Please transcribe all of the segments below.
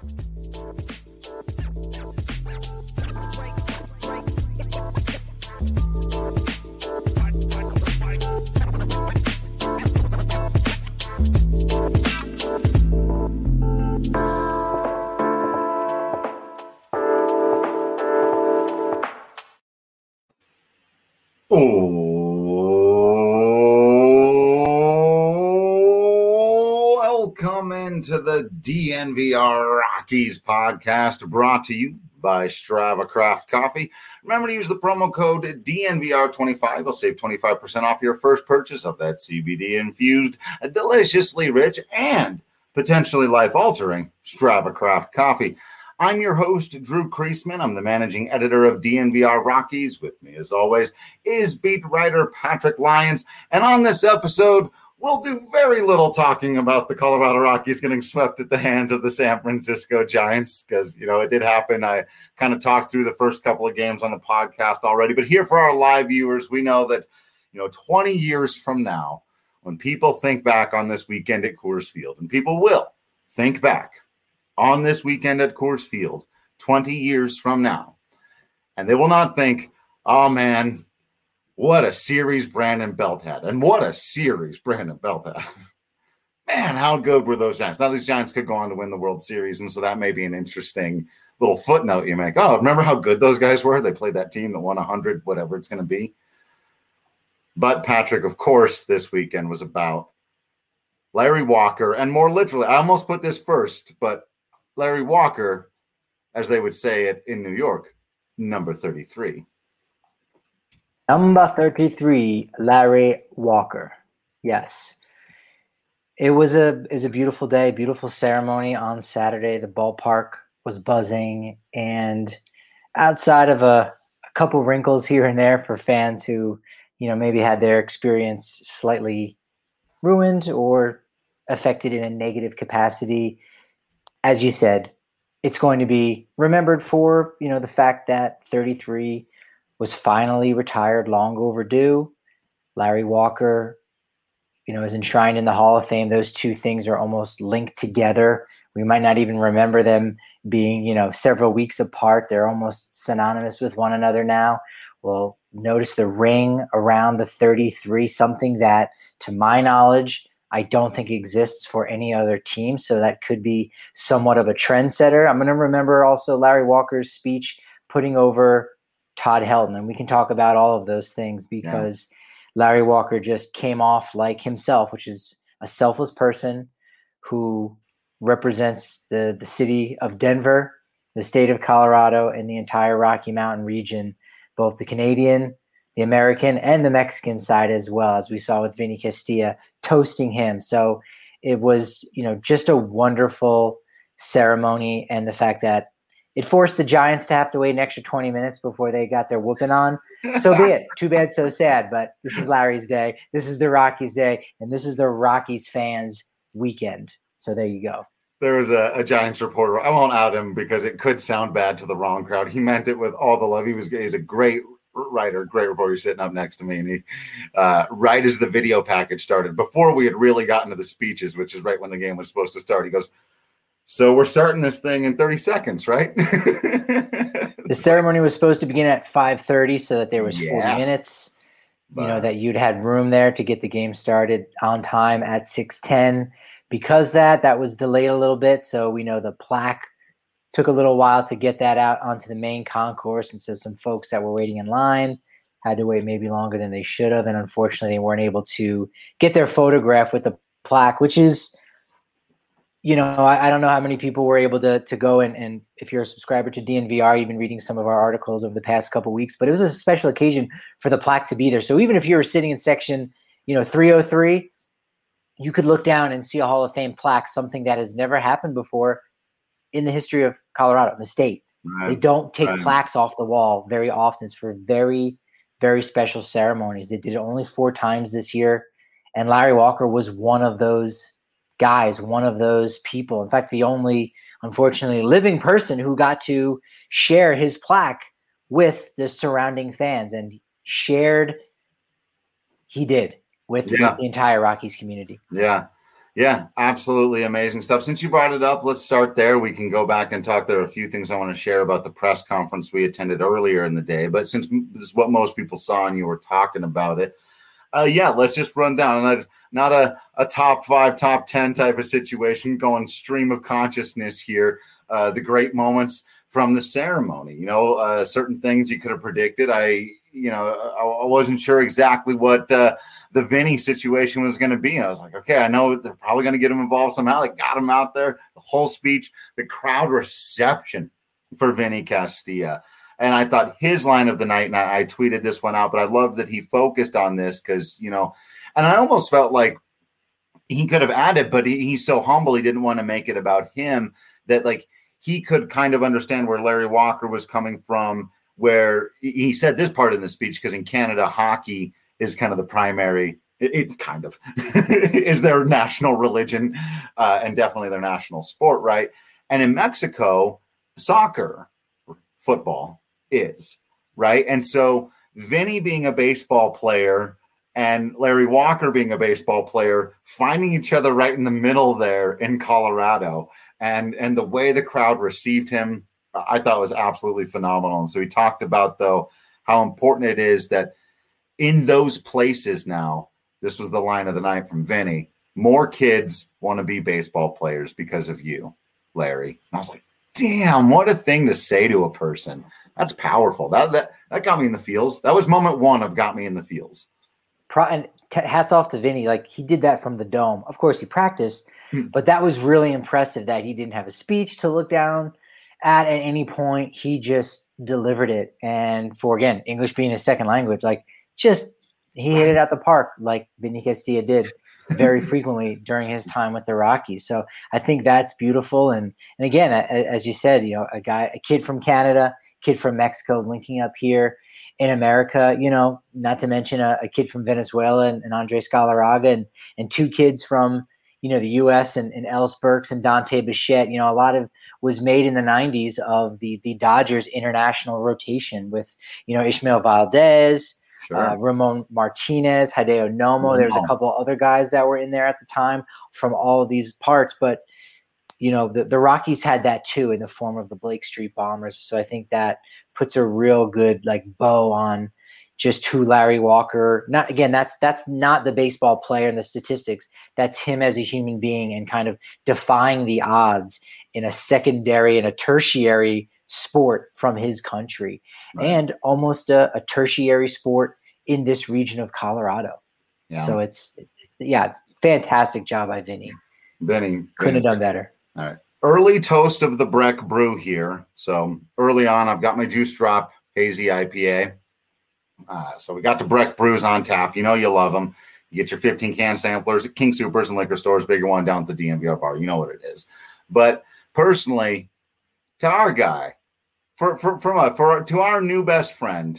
Welcome into the DNVR Rockies podcast, brought to you by Strava Craft Coffee. Remember to use the promo code DNVR25. It'll save 25% off your first purchase of that CBD-infused, deliciously rich, and potentially life-altering Strava Craft Coffee. I'm your host, Drew Kreisman. I'm the managing editor of DNVR Rockies. With me, as always, is beat writer Patrick Lyons. And on this episode, we'll do very little talking about the Colorado Rockies getting swept at the hands of the San Francisco Giants because, it did happen. I kind of talked through the first couple of games on the podcast already. But here for our live viewers, we know that, 20 years from now, when people think back on this weekend at Coors Field, and people will think back on this weekend at Coors Field 20 years from now, and they will not think, oh, man, what a series Brandon Belt had. And what a series Brandon Belt had. Man, how good were those Giants? Now, these Giants could go on to win the World Series, and so that may be an interesting little footnote you make. Oh, remember how good those guys were? They played that team that won 100, whatever it's going to be. But, Patrick, of course, this weekend was about Larry Walker, and more literally, I almost put this first, but Larry Walker, as they would say it in New York, number 33. Number 33, Larry Walker. Yes. It was a beautiful day, beautiful ceremony on Saturday. The ballpark was buzzing, and outside of a couple wrinkles here and there for fans who, maybe had their experience slightly ruined or affected in a negative capacity, as you said, it's going to be remembered for, the fact that 33 was finally retired, long overdue. Larry Walker, is enshrined in the Hall of Fame. Those two things are almost linked together. We might not even remember them being, several weeks apart. They're almost synonymous with one another now. Well, notice the ring around the 33, something that, to my knowledge, I don't think exists for any other team. So that could be somewhat of a trendsetter. I'm going to remember also Larry Walker's speech putting over Todd Helton, and we can talk about all of those things because Larry Walker just came off like himself, which is a selfless person who represents the city of Denver, the state of Colorado, and the entire Rocky Mountain region, both the Canadian, the American, and the Mexican side as well, as we saw with Vinny Castilla toasting him. So it was, just a wonderful ceremony, and the fact that it forced the Giants to have to wait an extra 20 minutes before they got their whooping on. So be it. Too bad, so sad. But this is Larry's day. This is the Rockies' day. And this is the Rockies fans' weekend. So there you go. There was a Giants reporter. I won't out him because it could sound bad to the wrong crowd. He meant it with all the love. He's a great writer, great reporter. He's sitting up next to me. And he, right as the video package started, before we had really gotten to the speeches, which is right when the game was supposed to start, he goes, so we're starting this thing in 30 seconds, right? The ceremony was supposed to begin at 5:30 so that there was 40 minutes, that you'd had room there to get the game started on time at 6:10. Because that was delayed a little bit, so we know the plaque took a little while to get that out onto the main concourse, and so some folks that were waiting in line had to wait maybe longer than they should have, and unfortunately they weren't able to get their photograph with the plaque, which is – I don't know how many people were able to go and if you're a subscriber to DNVR, you've been reading some of our articles over the past couple of weeks, but it was a special occasion for the plaque to be there. So even if you were sitting in section, 303, you could look down and see a Hall of Fame plaque, something that has never happened before in the history of Colorado, the state. Right. They don't take plaques off the wall very often. It's for very, very special ceremonies. They did it only 4 times this year, and Larry Walker was one of those guys, one of those people. In fact, the only, unfortunately, living person who got to share his plaque with the surrounding fans, and he did with the entire Rockies community. Yeah. Yeah, absolutely amazing stuff. Since you brought it up, let's start there. We can go back and talk. There are a few things I want to share about the press conference we attended earlier in the day. But since this is what most people saw and you were talking about it, yeah, let's just run down. And not a top 5, top 10 type of situation, going stream of consciousness here. The great moments from the ceremony. Certain things you could have predicted. I wasn't sure exactly what the Vinny situation was going to be. And I was like, okay, I know they're probably going to get him involved somehow. They got him out there, the whole speech, the crowd reception for Vinny Castilla. And I thought his line of the night, and I tweeted this one out, but I love that he focused on this because, and I almost felt like he could have added, but he's so humble. He didn't want to make it about him that like he could kind of understand where Larry Walker was coming from, where he said this part in the speech, because in Canada, hockey is kind of the primary, it kind of is their national religion and definitely their national sport, right? And in Mexico, soccer, football is, right? And so Vinny being a baseball player and Larry Walker being a baseball player, finding each other right in the middle there in Colorado, and the way the crowd received him, I thought was absolutely phenomenal. And so he talked about, though, how important it is that in those places now, this was the line of the night from Vinny, more kids want to be baseball players because of you, Larry. And I was like, damn, what a thing to say to a person. That's powerful. That got me in the feels. That was moment one of got me in the feels. And hats off to Vinny. Like, he did that from the dome. Of course, he practiced, but that was really impressive that he didn't have a speech to look down at any point. He just delivered it. And for, again, English being his second language, like, just he hit it out the park like Vinny Castilla did very frequently during his time with the Rockies. So I think that's beautiful. And again, as you said, a kid from Canada, kid from Mexico linking up here in America, not to mention a kid from Venezuela and Andres Galarraga, and two kids from, the U.S. and Ellis Burks and Dante Bichette. A lot of was made in the 90s of the Dodgers international rotation with, Ishmael Valdez, sure, Ramon Martinez, Hideo Nomo. There's a couple other guys that were in there at the time from all of these parts. But, the Rockies had that too in the form of the Blake Street Bombers. So I think that puts a real good bow on just who Larry Walker, that's not the baseball player and the statistics. That's him as a human being and kind of defying the odds in a secondary and a tertiary sport from his country, right, and almost a tertiary sport in this region of Colorado. Yeah. So it's fantastic job by Vinny. Vinny couldn't have done better. All right. Early toast of the Breck Brew here. So early on, I've got my Juice Drop Hazy IPA. So we got the Breck Brews on tap. You love them. You get your 15-can samplers at King Soopers and liquor stores, bigger one down at the DNVR bar. You know what it is. But personally, to our guy, to our new best friend,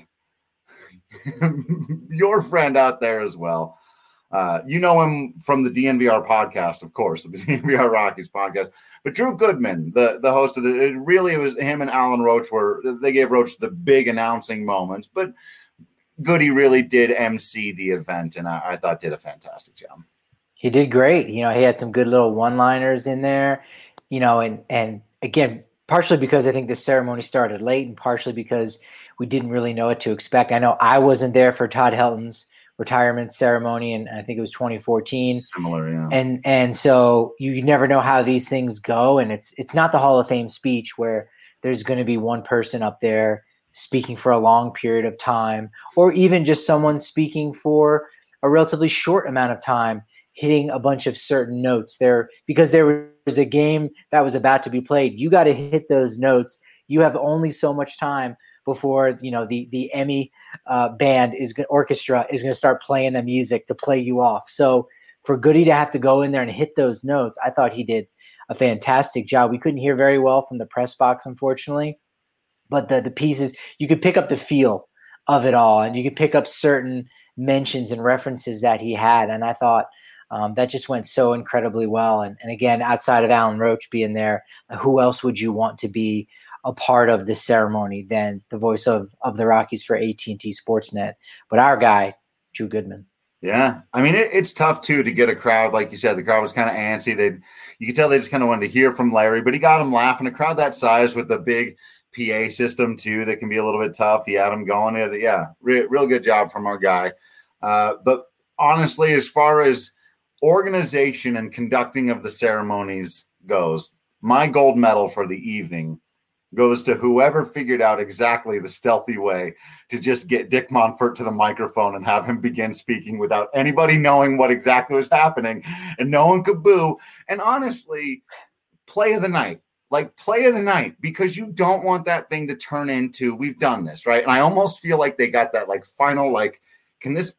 your friend out there as well. You know him from the DNVR podcast, of course, the DNVR Rockies podcast. But Drew Goodman, the host of it was him and Alan Roach they gave Roach the big announcing moments. But Goody really did MC the event, and I thought did a fantastic job. He did great. He had some good little one-liners in there, and again, partially because I think the ceremony started late and partially because we didn't really know what to expect. I know I wasn't there for Todd Helton's retirement ceremony, and I think it was 2014. Similar, yeah. And so you never know how these things go, and it's not the Hall of Fame speech where there's going to be one person up there speaking for a long period of time, or even just someone speaking for a relatively short amount of time, hitting a bunch of certain notes there, because there was a game that was about to be played. You got to hit those notes. You have only so much time before, the Emmy orchestra is going to start playing the music to play you off. So for Goody to have to go in there and hit those notes, I thought he did a fantastic job. We couldn't hear very well from the press box, unfortunately, but the pieces, you could pick up the feel of it all, and you could pick up certain mentions and references that he had. And I thought that just went so incredibly well. And again, outside of Alan Roach being there, who else would you want to be a part of this ceremony than the voice of the Rockies for AT&T Sportsnet, but our guy, Drew Goodman. Yeah. I mean, it's tough too to get a crowd. Like you said, the crowd was kind of antsy. You could tell they just kind of wanted to hear from Larry, but he got them laughing. A crowd that size with the big PA system too, that can be a little bit tough. He had them going. Yeah. Real good job from our guy. But honestly, as far as organization and conducting of the ceremonies goes, my gold medal for the evening goes to whoever figured out exactly the stealthy way to just get Dick Monfort to the microphone and have him begin speaking without anybody knowing what exactly was happening, and no one could boo. And honestly, play of the night, because you don't want that thing to turn into, we've done this, right? And I almost feel like they got that final, can this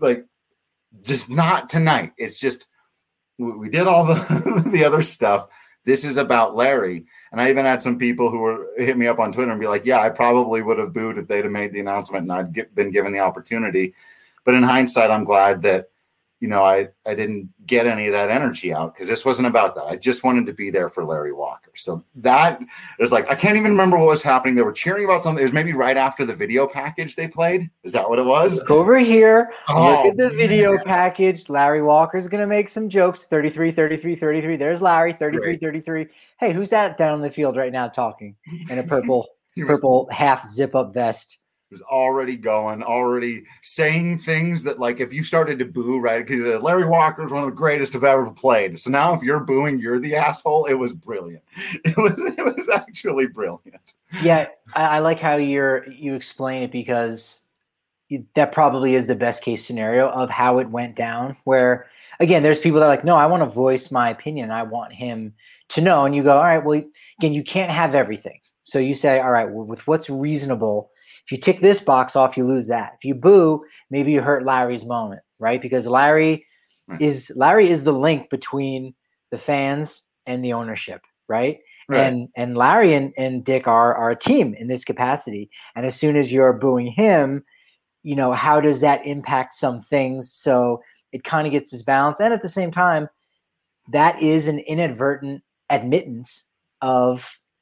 just not tonight? It's just, we did all the other stuff. This is about Larry. And I even had some people who were hit me up on Twitter and be like, yeah, I probably would have booed if they'd have made the announcement and I'd been given the opportunity. But in hindsight, I'm glad that, I didn't get any of that energy out, because this wasn't about that. I just wanted to be there for Larry Walker. So that is I can't even remember what was happening. They were cheering about something. It was maybe right after the video package they played. Is that what it was? Look over here. Look at the video package. Larry Walker's going to make some jokes. 33, 33, 33. There's Larry, 33, 33. Hey, who's that down on the field right now talking in a purple half zip-up vest? Was already saying things that, if you started to boo, right? Because Larry Walker is one of the greatest I've ever played. So now if you're booing, you're the asshole. It was brilliant. It was actually brilliant. Yeah, I like how you explain it, because that probably is the best case scenario of how it went down, where, again, there's people that are like, no, I want to voice my opinion. I want him to know. And you go, all right, well, again, you can't have everything. So you say, all right, well, with what's reasonable, if you tick this box off, you lose that. If you boo, maybe you hurt Larry's moment, right? Because Larry is the link between the fans and the ownership, right? And Larry and Dick are a team in this capacity. And as soon as you're booing him, how does that impact some things? So it kind of gets this balance. And at the same time, that is an inadvertent admittance of,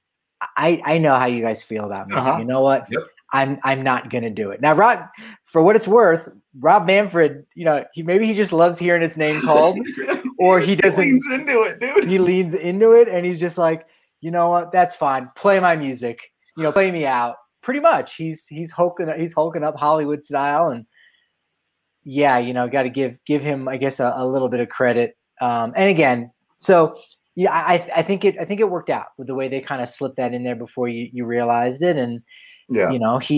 I know how you guys feel about this. You know what? Yep. I'm not going to do it. Now, Rob, for what it's worth, Rob Manfred, he just loves hearing his name called, or he doesn't. He leans into it, dude. He leans into it, and he's just like, you know what? That's fine. Play my music. Play me out. Pretty much. He's hulking up Hollywood style, and yeah, got to give him, I guess, a little bit of credit. And again, so yeah, I think it worked out with the way they kind of slipped that in there before you realized it, and. Yeah,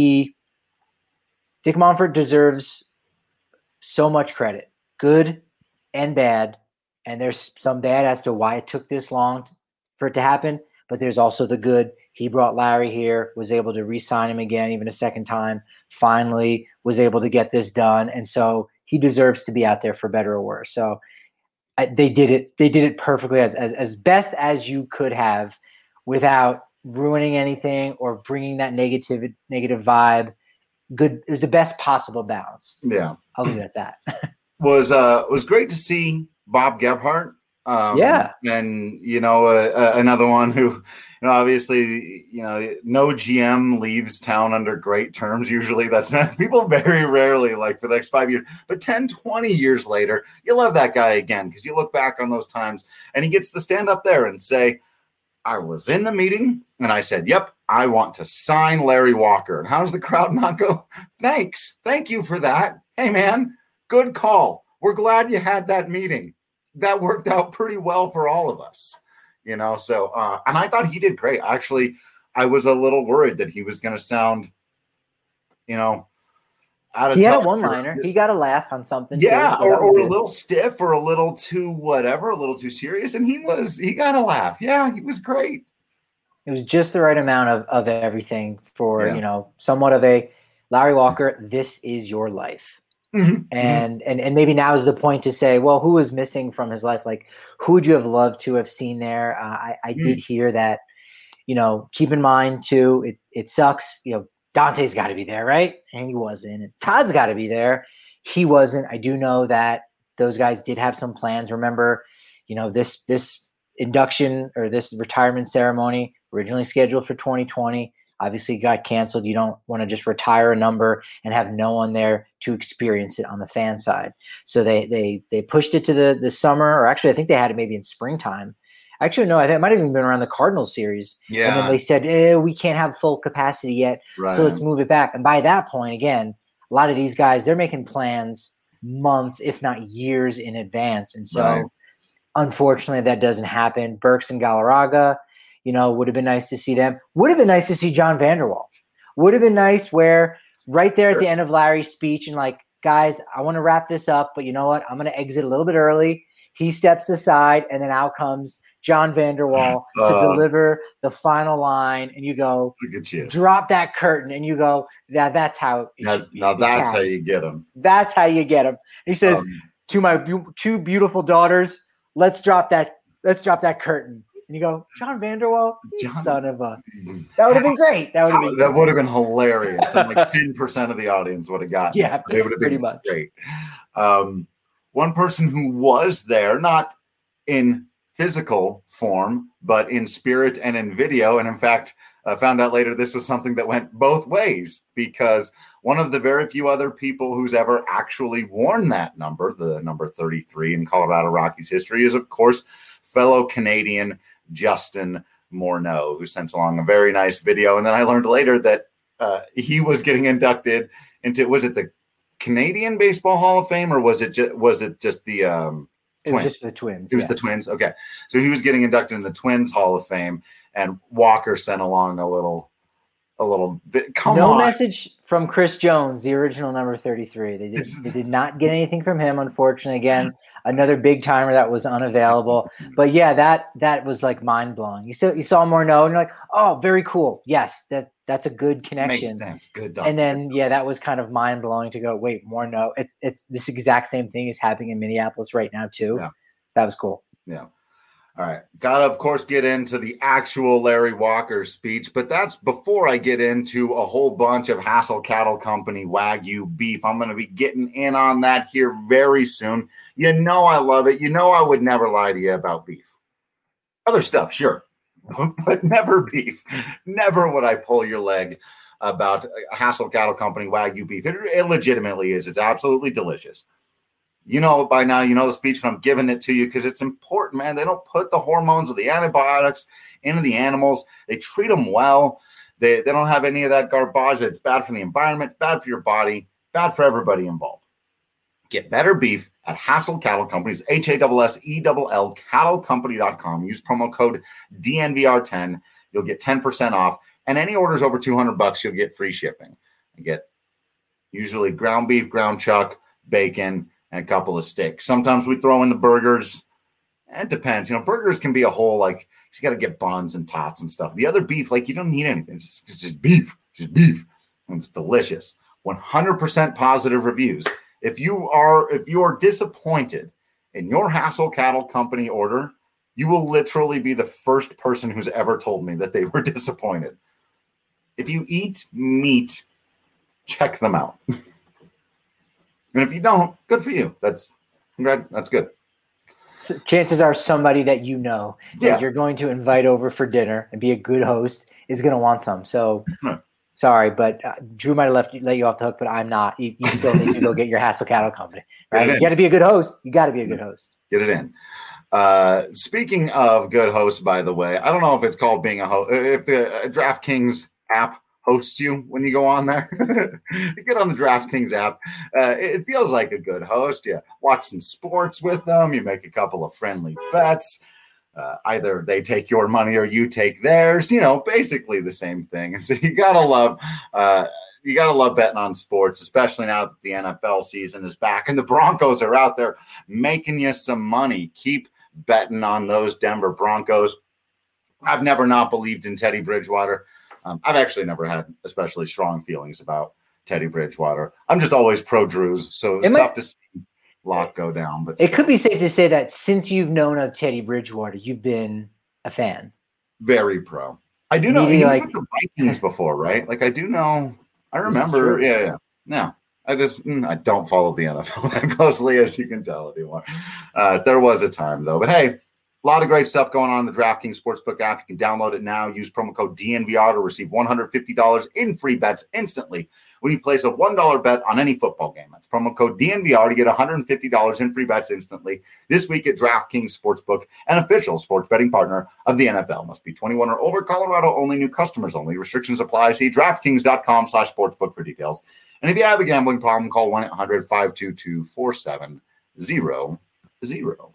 Dick Monfort deserves so much credit, good and bad. And there's some bad as to why it took this long for it to happen. But there's also the good. He brought Larry here, was able to re-sign him again, even a second time, finally was able to get this done. And so he deserves to be out there for better or worse. So they did it. They did it perfectly as best as you could have, without ruining anything or bringing that negative vibe. Good. It was the best possible balance. Yeah. I'll leave it at that. was great to see Bob Gebhardt. Yeah. And, another one who, obviously, no GM leaves town under great terms. Usually that's not, people very rarely, for the next 5 years, but 10, 20 years later, you love that guy again, because you look back on those times and he gets to stand up there and say, I was in the meeting and I said, yep, I want to sign Larry Walker. And how does the crowd not go, thanks. Thank you for that. Hey, man, good call. We're glad you had that meeting. That worked out pretty well for all of us, So, and I thought he did great. Actually, I was a little worried that he was going to sound, out of he had a one-liner. He got a laugh on something. Yeah, or a little stiff, or a little too whatever, a little too serious. And he got a laugh. Yeah, he was great. It was just the right amount of everything for, somewhat of a Larry Walker, this is your life. Mm-hmm. And maybe now is the point to say, well, who was missing from his life? Who would you have loved to have seen there? I did hear that, keep in mind too, it sucks, Dante's got to be there, right? And he wasn't. And Todd's got to be there. He wasn't. I do know that those guys did have some plans. Remember, this induction or this retirement ceremony originally scheduled for 2020 Obviously, it got canceled. You don't want to just retire a number and have no one there to experience it on the fan side. So they pushed it to the summer, or actually, I think they had it maybe in springtime. Actually, no, I think it might have even been around the Cardinals series. Yeah. And then they said, we can't have full capacity yet, so let's move it back. And by that point, again, a lot of these guys, they're making plans months, if not years in advance. And so, unfortunately, that doesn't happen. Burks and Galarraga, would have been nice to see them. Would have been nice to see John Vander Wal. Would have been nice where right there at the end of Larry's speech and like, guys, I want to wrap this up, but you know what? I'm going to exit a little bit early. He steps aside, and then out comes John Vander Wal to deliver the final line, and you go, look at you. Drop that curtain, and you go, that's how that's how you get him. That's how you get him. He says, to my two beautiful daughters, let's drop that curtain. And you go, John Vander Wal, son of a. That would have been great. That would have been hilarious. And like 10% of the audience would have gotten it. It would have been much. Great. One person who was there, not in physical form, but in spirit and in video. And in fact, I found out later this was something that went both ways, because one of the very few other people who's ever actually worn that number, the number 33 in Colorado Rockies history, is, of course, fellow Canadian Justin Morneau, who sent along a very nice video. And then I learned later that he was getting inducted into, was it the Canadian Baseball Hall of Fame, or was it just the Twins? It was just the Twins. It was the Twins. Okay. So he was getting inducted in the Twins Hall of Fame, and Walker sent along a little bit. No message from Chris Jones, the original number 33. They did not get anything from him, unfortunately. Again, another big timer that was unavailable. But yeah, that was like mind blowing. You saw Morneau, and you're like, oh, very cool. Yes, that's a good connection. Makes sense. Good. And then that was kind of mind blowing to go, wait, Morneau. It's this exact same thing is happening in Minneapolis right now too. Yeah. That was cool. Yeah. All right. Got to, of course, get into the actual Larry Walker speech, but that's before I get into a whole bunch of Hassel Cattle Company Wagyu beef. I'm going to be getting in on that here very soon. You know I love it. You know I would never lie to you about beef. Other stuff, sure, but never beef. Never would I pull your leg about Hassel Cattle Company Wagyu beef. It legitimately is. It's absolutely delicious. You know it by now. You know the speech, but I'm giving it to you because it's important, man. They don't put the hormones or the antibiotics into the animals. They treat them well. They don't have any of that garbage that's bad for the environment, bad for your body, bad for everybody involved. Get better beef at Hassel Cattle Companies, HASSELL, cattlecompany.com. Use promo code DNVR10. You'll get 10% off. And any orders over $200, you'll get free shipping. You get usually ground beef, ground chuck, bacon, and a couple of steaks. Sometimes we throw in the burgers. It depends. Burgers can be a whole, like, you got to get buns and tots and stuff. The other beef, like, you don't need anything. It's just beef. Just beef. And it's delicious. 100% positive reviews. If you are disappointed in your Hassel Cattle Company order, you will literally be the first person who's ever told me that they were disappointed. If you eat meat, check them out. And if you don't, good for you. That's good. So chances are somebody that that you're going to invite over for dinner and be a good host is going to want some. So sorry, but Drew might have let you off the hook, but I'm not. You still need to go get your Hassel Cattle Company. Right? You got to be a good host. You got to be a good host. Get it in. Speaking of good hosts, by the way, I don't know if it's called being a host. If the DraftKings app hosts you when you go on there, you get on the DraftKings app. It feels like a good host. You watch some sports with them. You make a couple of friendly bets. Either they take your money or you take theirs. Basically the same thing. And so you gotta love betting on sports, especially now that the NFL season is back and the Broncos are out there making you some money. Keep betting on those Denver Broncos. I've never not believed in Teddy Bridgewater. I've actually never had especially strong feelings about Teddy Bridgewater. I'm just always pro Drews, so it's tough to see Lock go down. But it could be safe to say that since you've known of Teddy Bridgewater, you've been a fan. Very pro. I do know he was with the Vikings before, right? Like I do know. I remember. Yeah. No, I don't follow the NFL that closely, as you can tell anymore. There was a time though, but hey, A lot of great stuff going on in the DraftKings Sportsbook app. You can download it now. Use promo code DNVR to receive $150 in free bets instantly when you place a $1 bet on any football game. That's promo code DNVR to get $150 in free bets instantly this week at DraftKings Sportsbook, an official sports betting partner of the NFL. Must be 21 or older. Colorado only. New customers only. Restrictions apply. See DraftKings.com/sportsbook for details. And if you have a gambling problem, call 1-800-522-4700.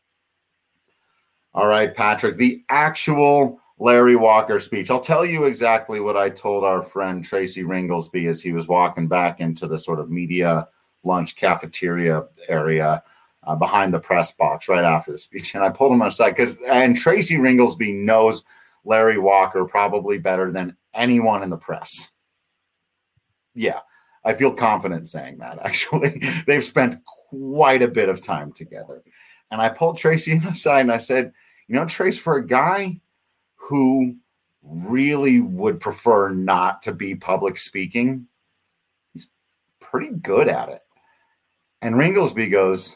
All right, Patrick, the actual Larry Walker speech. I'll tell you exactly what I told our friend Tracy Ringlesby as he was walking back into the sort of media lunch cafeteria area behind the press box right after the speech. And I pulled him aside and Tracy Ringlesby knows Larry Walker probably better than anyone in the press. Yeah, I feel confident saying that, actually. They've spent quite a bit of time together. And I pulled Tracy aside and I said, Trace, for a guy who really would prefer not to be public speaking, he's pretty good at it. And Ringlesby goes,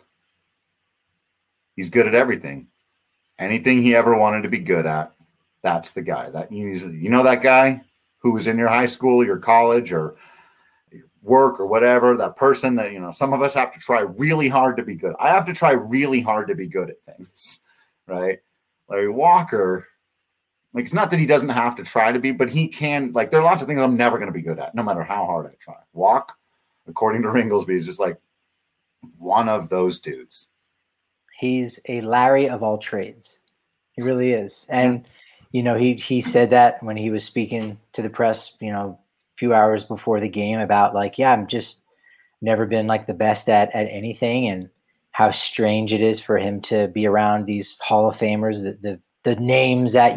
he's good at everything. Anything he ever wanted to be good at, that's the guy. That that guy who was in your high school, your college, or work or whatever, that person that, some of us have to try really hard to be good. I have to try really hard to be good at things, right? Larry Walker, it's not that he doesn't have to try to be, but he can, there are lots of things I'm never going to be good at, no matter how hard I try. Walk, according to Ringlesby, is just one of those dudes. He's a Larry of all trades. He really is. And, he said that when he was speaking to the press, few hours before the game about I'm just never been the best at anything, and how strange it is for him to be around these Hall of Famers, the names that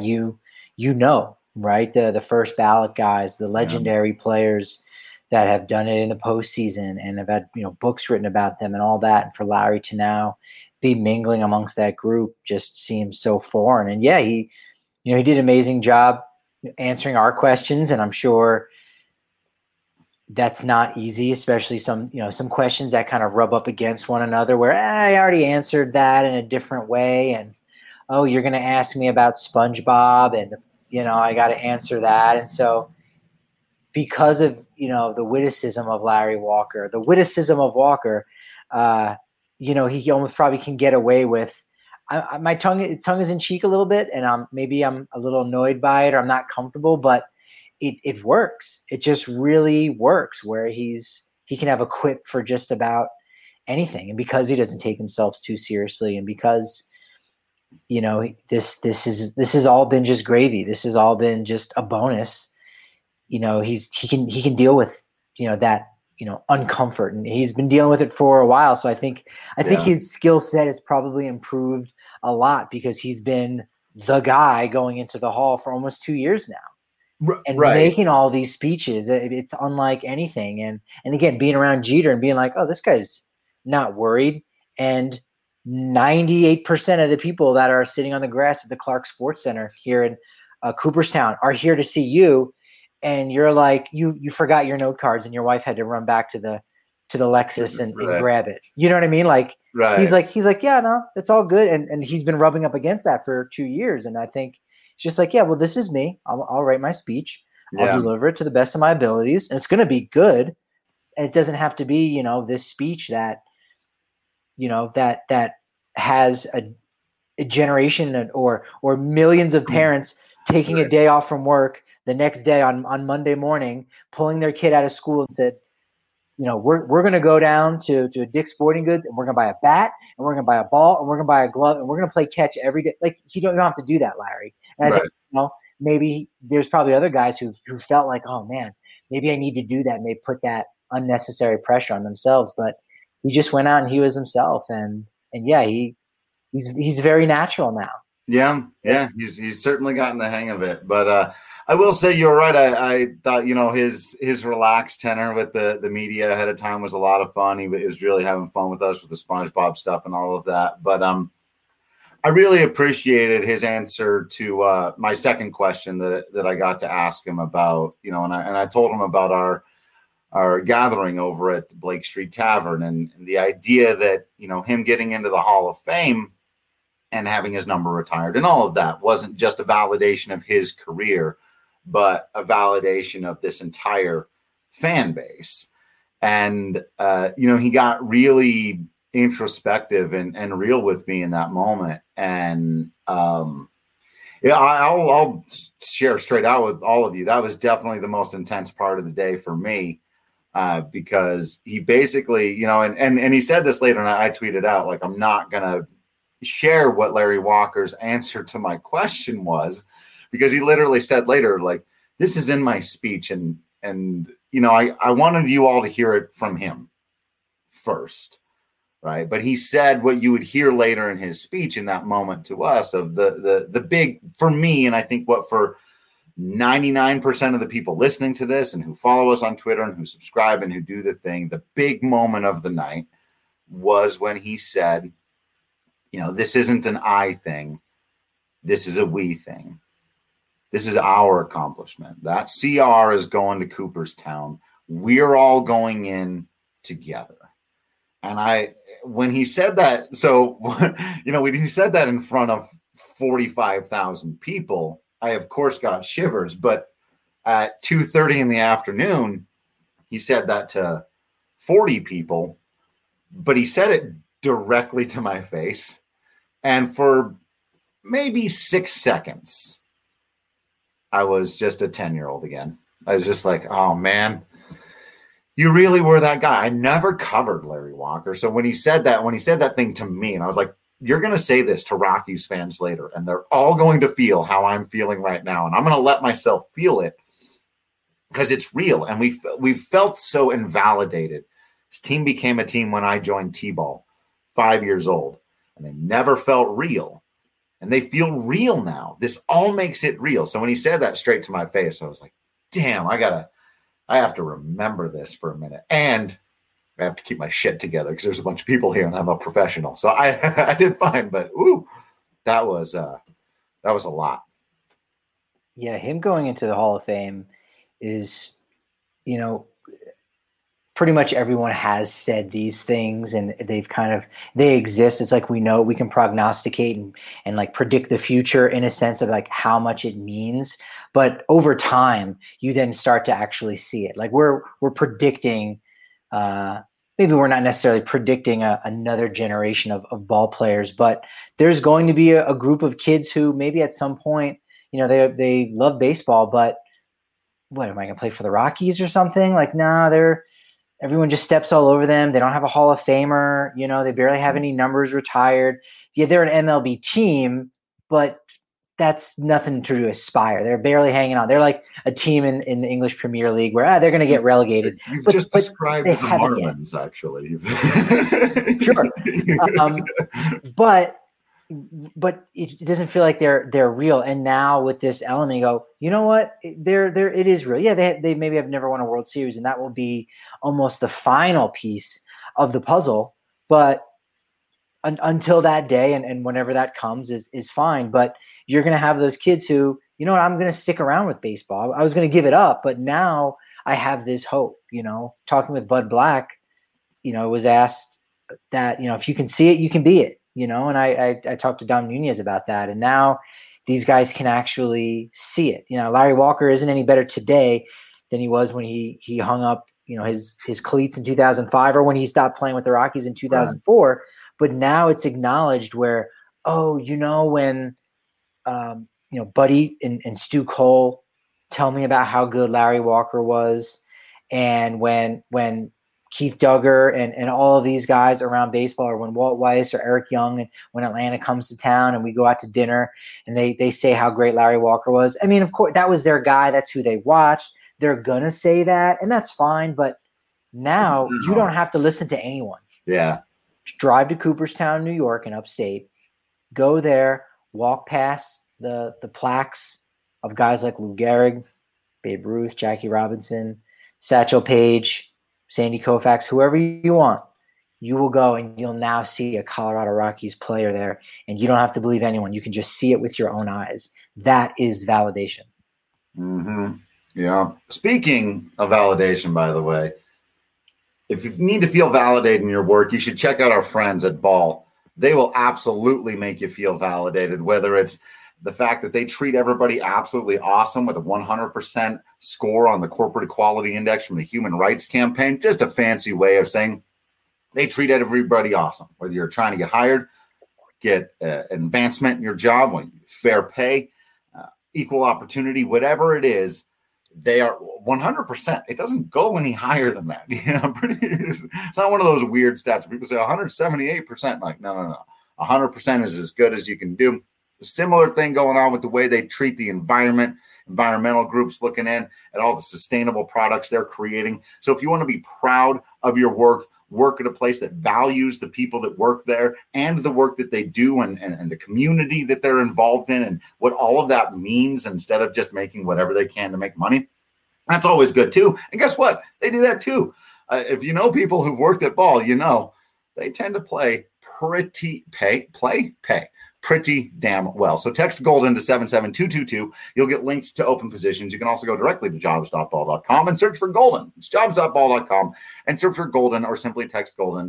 right? The first ballot guys, the legendary players that have done it in the postseason and have had books written about them and all that. And for Larry to now be mingling amongst that group just seems so foreign. And yeah, he did an amazing job answering our questions, and I'm sure that's not easy, especially some questions that kind of rub up against one another where I already answered that in a different way. And, oh, you're going to ask me about SpongeBob and, I got to answer that. And so because of, the witticism of Larry Walker, he almost probably can get away with my tongue is in cheek a little bit, and maybe I'm a little annoyed by it, or I'm not comfortable, but it works. It just really works where he can have a quip for just about anything. And because he doesn't take himself too seriously, and because, this has all been just gravy. This has all been just a bonus. He can deal with, that, uncomfort, and he's been dealing with it for a while. So I think his skill set has probably improved a lot because he's been the guy going into the Hall for almost 2 years now. And making all these speeches, it's unlike anything. And again, being around Jeter and being oh, this guy's not worried. And 98% of the people that are sitting on the grass at the Clark Sports Center here in Cooperstown are here to see you. And you're you forgot your note cards, and your wife had to run back to the Lexus and grab it. You know what I mean? He's yeah, no, it's all good. And he's been rubbing up against that for 2 years. And I think it's just yeah, well, this is me. I'll write my speech. I'll deliver it to the best of my abilities, and it's going to be good. And it doesn't have to be, this speech that, that has a generation or millions of parents taking a day off from work the next day on Monday morning, pulling their kid out of school and said, we're going to go down to a Dick's Sporting Goods, and we're going to buy a bat, and we're going to buy a ball, and we're going to buy a glove, and we're going to play catch every day. You don't have to do that, Larry. And I think, maybe there's probably other guys who felt oh man, maybe I need to do that. And they put that unnecessary pressure on themselves, but he just went out and he was himself. And yeah, he's very natural now. Yeah. He's certainly gotten the hang of it, but, I will say you're right. I thought, his relaxed tenor with the media ahead of time was a lot of fun. He was really having fun with us with the SpongeBob stuff and all of that. But I really appreciated his answer to my second question that I got to ask him about, and I told him about our gathering over at the Blake Street Tavern and the idea that, him getting into the Hall of Fame and having his number retired and all of that wasn't just a validation of his career, but a validation of this entire fan base. And, he got really introspective and real with me in that moment. And, I'll share straight out with all of you. That was definitely the most intense part of the day for me, because he basically, and he said this later, and I tweeted out, like, I'm not going to share what Larry Walker's answer to my question was, because he literally said later, like, this is in my speech. And I wanted you all to hear it from him first. Right. But he said what you would hear later in his speech in that moment to us of the big, for me, and I think what for 99% of the people listening to this and who follow us on Twitter and who subscribe and who do the thing, the big moment of the night was when he said, this isn't an I thing. This is a we thing. This is our accomplishment. That CR is going to Cooperstown. We're all going in together. And when he said that, when he said that in front of 45,000 people, I, of course, got shivers. But at 2:30 in the afternoon, he said that to 40 people, but he said it directly to my face. And for maybe 6 seconds, I was just a 10-year-old again. I was just like, oh, man. You really were that guy. I never covered Larry Walker. So when he said that thing to me, and I was like, you're going to say this to Rockies fans later, and they're all going to feel how I'm feeling right now. And I'm going to let myself feel it because it's real. And we've felt so invalidated. This team became a team when I joined T-ball, 5 years old, and they never felt real. And they feel real now. This all makes it real. So when he said that straight to my face, I was like, damn, I have to remember this for a minute, and I have to keep my shit together because there's a bunch of people here and I'm a professional. So I did fine, but that was a lot. Yeah. Him going into the Hall of Fame is, pretty much everyone has said these things and they exist. It's like, we know we can prognosticate and like predict the future in a sense of like how much it means. But over time, you then start to actually see it. Like we're predicting, maybe we're not necessarily predicting another generation of ball players, but there's going to be a group of kids who maybe at some point, they love baseball, but what, am I going to play for the Rockies or something? Like, nah, everyone just steps all over them. They don't have a Hall of Famer. They barely have any numbers retired. Yeah, they're an MLB team, but that's nothing to aspire. They're barely hanging on. They're like a team in the English Premier League where they're going to get relegated. You've just described the Marlins, actually. Sure. But it doesn't feel like they're real. And now with this element, you go, you know what? It is real. Yeah, they maybe have never won a World Series, and that will be almost the final piece of the puzzle. But until that day, and whenever that comes, is fine. But you're going to have those kids who, I'm going to stick around with baseball. I was going to give it up, but now I have this hope. Talking with Bud Black, was asked that, if you can see it, you can be it. And I talked to Dom Nunez about that. And now these guys can actually see it. Larry Walker isn't any better today than he was when he hung up, his cleats in 2005 or when he stopped playing with the Rockies in 2004. Right. But now it's acknowledged where, when, Buddy and Stu Cole tell me about how good Larry Walker was. And when Keith Duggar and all of these guys around baseball, or when Walt Weiss or Eric Young, and when Atlanta comes to town and we go out to dinner and they say how great Larry Walker was. I mean, of course, that was their guy. That's who they watched. They're going to say that, and that's fine. But now you don't have to listen to anyone. Yeah. Drive to Cooperstown, New York, in upstate. Go there, walk past the plaques of guys like Lou Gehrig, Babe Ruth, Jackie Robinson, Satchel Paige, Sandy Koufax, whoever you want. You will go and you'll now see a Colorado Rockies player there, and you don't have to believe anyone. You can just see it with your own eyes. That is validation. Mm-hmm. Yeah. Speaking of validation, by the way, if you need to feel validated in your work, you should check out our friends at Ball. they will absolutely make you feel validated, whether it's the fact that they treat everybody absolutely awesome with a 100% score on the Corporate Equality Index from the Human Rights Campaign, just a fancy way of saying they treat everybody awesome, whether you're trying to get hired, get advancement in your job, fair pay, equal opportunity, whatever it is, they are 100%. It doesn't go any higher than that. It's not one of those weird stats. People say 178%. Like, no. 100% is as good as you can do. A similar thing going on with the way they treat the environment, environmental groups looking in at all the sustainable products they're creating. So if you want to be proud of your work at a place that values the people that work there and the work that they do and the community that they're involved in and what all of that means, instead of just making whatever they can to make money, that's always good too. And guess what? They do that too. If you know people who've worked at Ball, they tend to play pretty damn well. So text Golden to 77222. You'll get links to open positions. You can also go directly to jobs.ball.com and search for Golden. It's jobs.ball.com and search for Golden, or simply text Golden to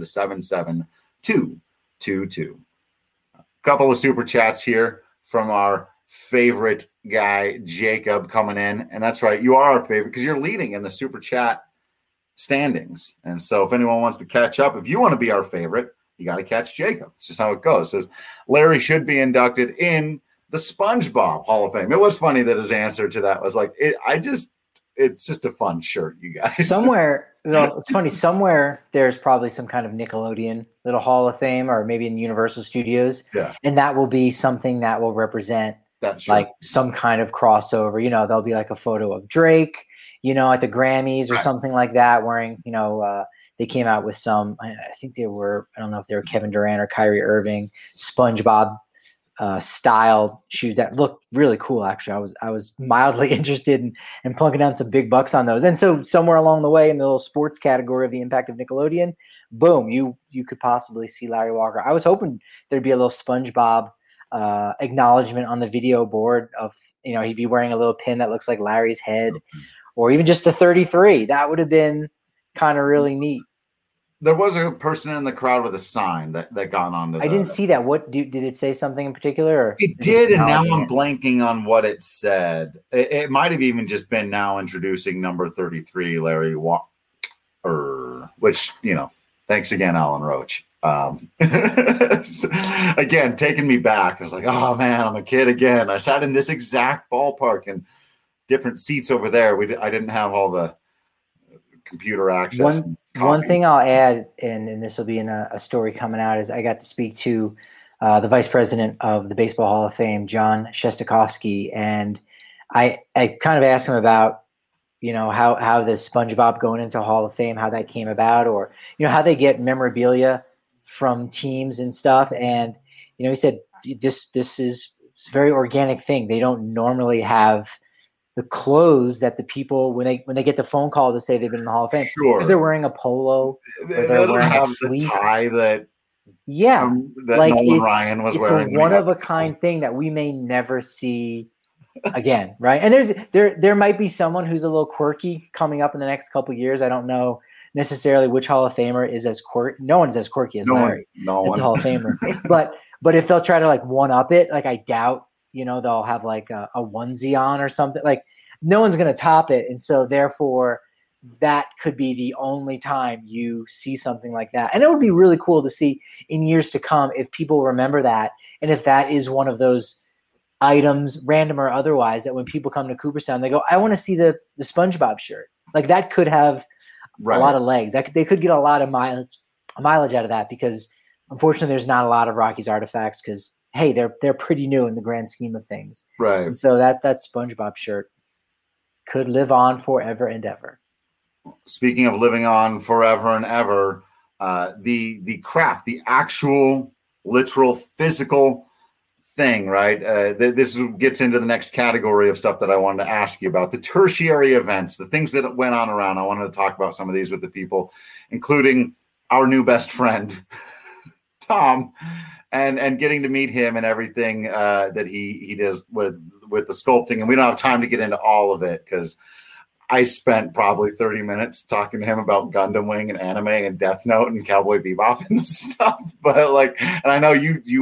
77222. A couple of super chats here from our favorite guy, Jacob, coming in. And that's right, you are our favorite because you're leading in the super chat standings. And so if anyone wants to catch up, if you want to be our favorite, you got to catch Jacob. It's just how it goes. It says Larry should be inducted in the SpongeBob Hall of Fame. It was funny that his answer to that was like, it's just a fun shirt, you guys. Somewhere, it's funny. Somewhere there's probably some kind of Nickelodeon little Hall of Fame, or maybe in Universal Studios. Yeah. And that will be something that will represent like some kind of crossover. There'll be like a photo of Drake, at the Grammys or something like that, wearing, they came out with some, I think they were, I don't know if they were Kevin Durant or Kyrie Irving, SpongeBob style shoes that looked really cool. Actually, I was mildly interested in plunking down some big bucks on those. And so somewhere along the way in the little sports category of the impact of Nickelodeon, boom, you could possibly see Larry Walker. I was hoping there'd be a little SpongeBob acknowledgement on the video board of, he'd be wearing a little pin that looks like Larry's head, or even just the 33. That would have been kind of really neat. There was a person in the crowd with a sign that got onto. I didn't see that. What did it say something in particular? Or it did, and now I'm blanking on what it said. It might have even just been now introducing number 33, Larry Walker, which thanks again, Alan Roach. Again, taking me back. I was like, oh man, I'm a kid again. I sat in this exact ballpark and different seats over there. I didn't have all the computer access. One thing I'll add, and this will be in a story coming out, is I got to speak to the vice president of the Baseball Hall of Fame, John Shestakovsky, and I kind of asked him about how the SpongeBob going into Hall of Fame, how that came about, or how they get memorabilia from teams and stuff. And he said this is a very organic thing. They don't normally have the clothes that the people when they get the phone call to say they've been in the Hall of Fame, because they're wearing a polo, they don't have the tie that like Nolan Ryan was wearing. It's a one of a kind thing that we may never see again, right? And there might be someone who's a little quirky coming up in the next couple of years. I don't know necessarily which Hall of Famer is as quirky. No one's as quirky as Larry. No one. It's a Hall of Famer. but if they'll try to like one up it, like I doubt. They'll have like a onesie on or something. Like no one's going to top it. And so therefore that could be the only time you see something like that. And it would be really cool to see in years to come if people remember that. And if that is one of those items, random or otherwise, that when people come to Cooperstown, they go, I want to see the SpongeBob shirt. Like that could have a lot of legs. They could get a lot of mileage out of that, because unfortunately there's not a lot of Rockies artifacts, because hey, they're pretty new in the grand scheme of things. Right. And so that SpongeBob shirt could live on forever and ever. Speaking of living on forever and ever, the craft, the actual, literal, physical thing, right? This gets into the next category of stuff that I wanted to ask you about. The tertiary events, the things that went on around. I wanted to talk about some of these with the people, including our new best friend, Tom. And getting to meet him and everything that he does with the sculpting. And we don't have time to get into all of it because I spent probably 30 minutes talking to him about Gundam Wing and anime and Death Note and Cowboy Bebop and stuff. But like, and I know we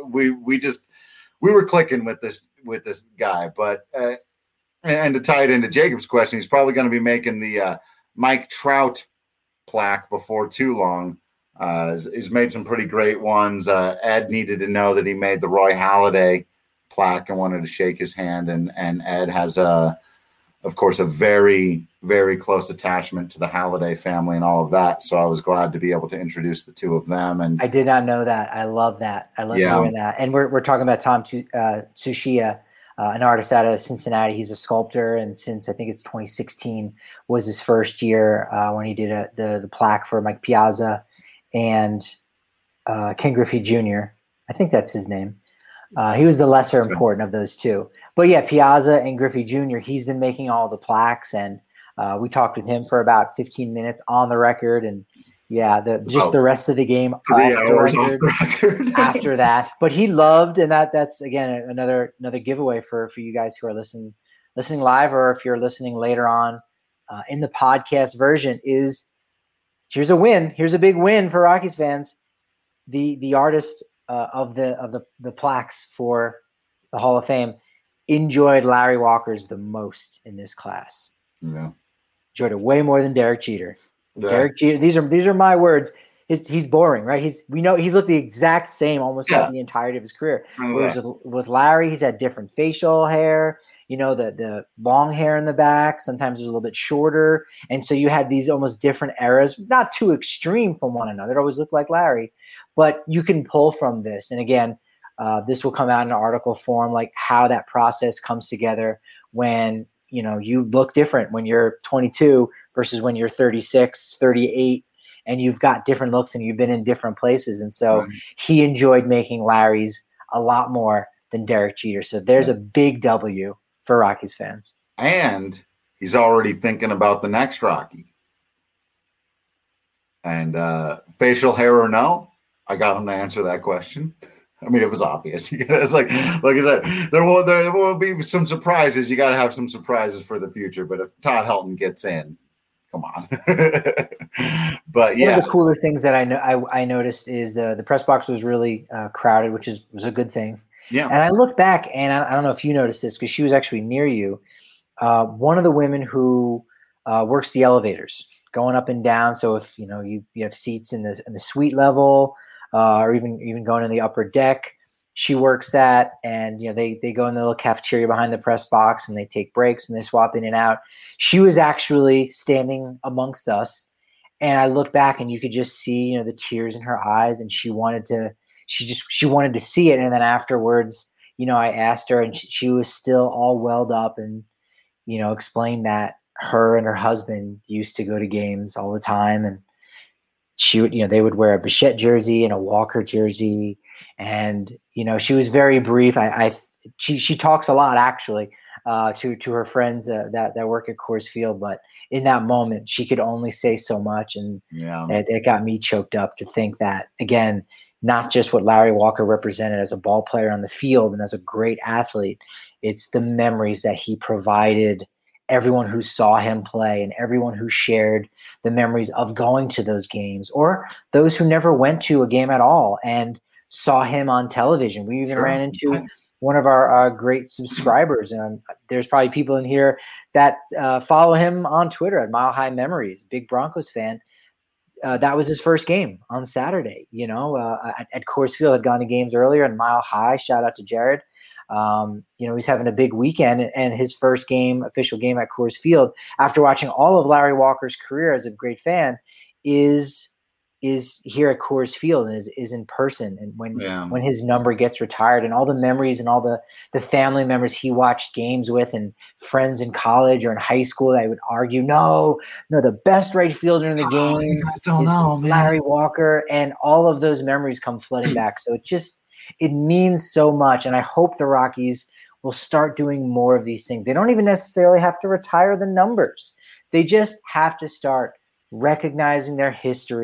were clicking with this guy. But and to tie it into Jacob's question, he's probably going to be making the Mike Trout plaque before too long. He's made some pretty great ones. Ed needed to know that he made the Roy Halladay plaque and wanted to shake his hand. And Ed has of course, a very, very close attachment to the Halladay family and all of that. So I was glad to be able to introduce the two of them. And I did not know that. I love that. I love hearing that. And we're talking about Tom Tsuchiya, an artist out of Cincinnati. He's a sculptor, and since I think it's 2016 was his first year when he did the plaque for Mike Piazza and Ken Griffey Jr. I think that's his name. He was the lesser important of those two. But yeah, Piazza and Griffey Jr., he's been making all the plaques, and we talked with him for about 15 minutes on the record, and yeah, the rest of the game 3 hours off the record after that. But he loved, and that's again another giveaway for you guys who are listening live, or if you're listening later on in the podcast version. Here's a win. Here's a big win for Rockies fans. The artist of the plaques for the Hall of Fame enjoyed Larry Walker's the most in this class. Yeah. Enjoyed it way more than Derek Jeter. Yeah. Derek Jeter, these are my words. He's boring, right? We know he's looked the exact same almost throughout the entirety of his career. Whereas with Larry, he's had different facial hair, the long hair in the back, sometimes it was a little bit shorter. And so you had these almost different eras, not too extreme from one another. It always looked like Larry, but you can pull from this. And again, this will come out in an article form, like how that process comes together when, you look different when you're 22 versus when you're 36, 38, and you've got different looks and you've been in different places. And so he enjoyed making Larry's a lot more than Derek Jeter. So there's a big W for Rockies fans. And he's already thinking about the next Rocky. And facial hair or no, I got him to answer that question. I mean, it was obvious. It's like I said, there will be some surprises. You got to have some surprises for the future. But if Todd Helton gets in, come on. But yeah, one of the cooler things that I noticed is the press box was really crowded, which was a good thing. Yeah. And I look back, and I don't know if you noticed this because she was actually near you. One of the women who works the elevators, going up and down. So if you have seats in the suite level. Or even going in the upper deck. She works that, and they go in the little cafeteria behind the press box, and they take breaks and they swap in and out. She was actually standing amongst us, and I looked back, and you could just see the tears in her eyes, and she wanted to see it. And then afterwards, I asked her, and she was still all welled up, and explained that her and her husband used to go to games all the time, and she would, they would wear a Bichette jersey and a Walker jersey. And, she was very brief. She talks a lot actually, to her friends that work at Coors Field, but in that moment she could only say so much. And it got me choked up to think that, again, not just what Larry Walker represented as a ball player on the field and as a great athlete, it's the memories that he provided everyone who saw him play and everyone who shared the memories of going to those games, or those who never went to a game at all and saw him on television. We even ran into one of our great subscribers, and there's probably people in here that follow him on Twitter at Mile High Memories, big Broncos fan. That was his first game on Saturday, at Coors Field. Had gone to games earlier, and Mile High, shout out to Jared. He's having a big weekend, and his first official game at Coors Field after watching all of Larry Walker's career as a great fan is here at Coors Field and is in person. And when his number gets retired, and all the memories and all the family members he watched games with and friends in college or in high school that would argue, no, the best right fielder in the game you guys don't know, man. Larry Walker, and all of those memories come flooding back. So it means so much, and I hope the Rockies will start doing more of these things. They don't even necessarily have to retire the numbers. They just have to start recognizing their history,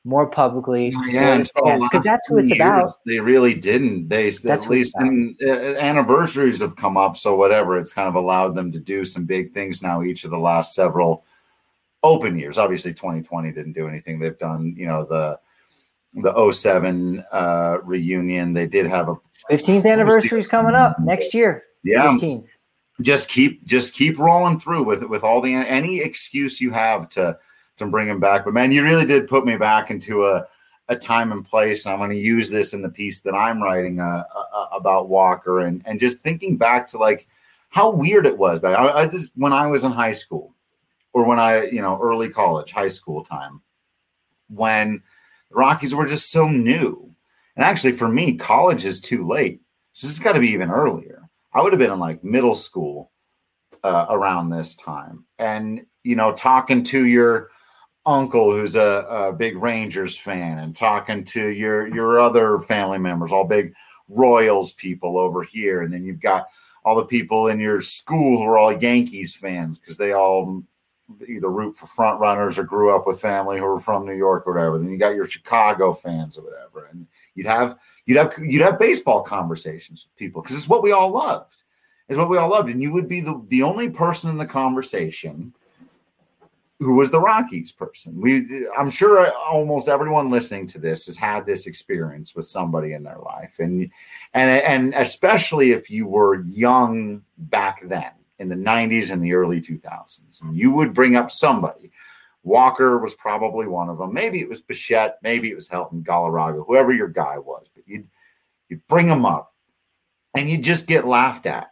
more publicly. Yeah, because that's who it's about. They really didn't. At least in anniversaries have come up, so whatever. It's kind of allowed them to do some big things now. Each of the last several open years. Obviously, 2020 didn't do anything. They've done, the 07 reunion. They did have a 15th anniversary is coming up next year. Yeah, 15th. Just keep rolling through with all any excuse you have to bring him back. But man, you really did put me back into a time and place, and I'm going to use this in the piece that I'm writing about Walker, and just thinking back to like how weird it was back. I just when I was in high school, or when I early college, high school time, when the Rockies were just so new. And actually, for me, college is too late. So this has got to be even earlier. I would have been in like middle school around this time, and talking to your uncle who's a big Rangers fan, and talking to your other family members, all big Royals people over here, and then you've got all the people in your school who are all Yankees fans because they all either root for front runners or grew up with family who are from New York or whatever. Then you got your Chicago fans or whatever, and you'd have baseball conversations with people because it's what we all loved. And you would be the only person in the conversation who was the Rockies person. I'm sure almost everyone listening to this has had this experience with somebody in their life, and especially if you were young back then in the 90s and the early 2000s, and you would bring up somebody. Walker was probably one of them. Maybe it was Bichette, maybe it was Helton, Galarraga, whoever your guy was. But you'd bring him up, and you'd just get laughed at.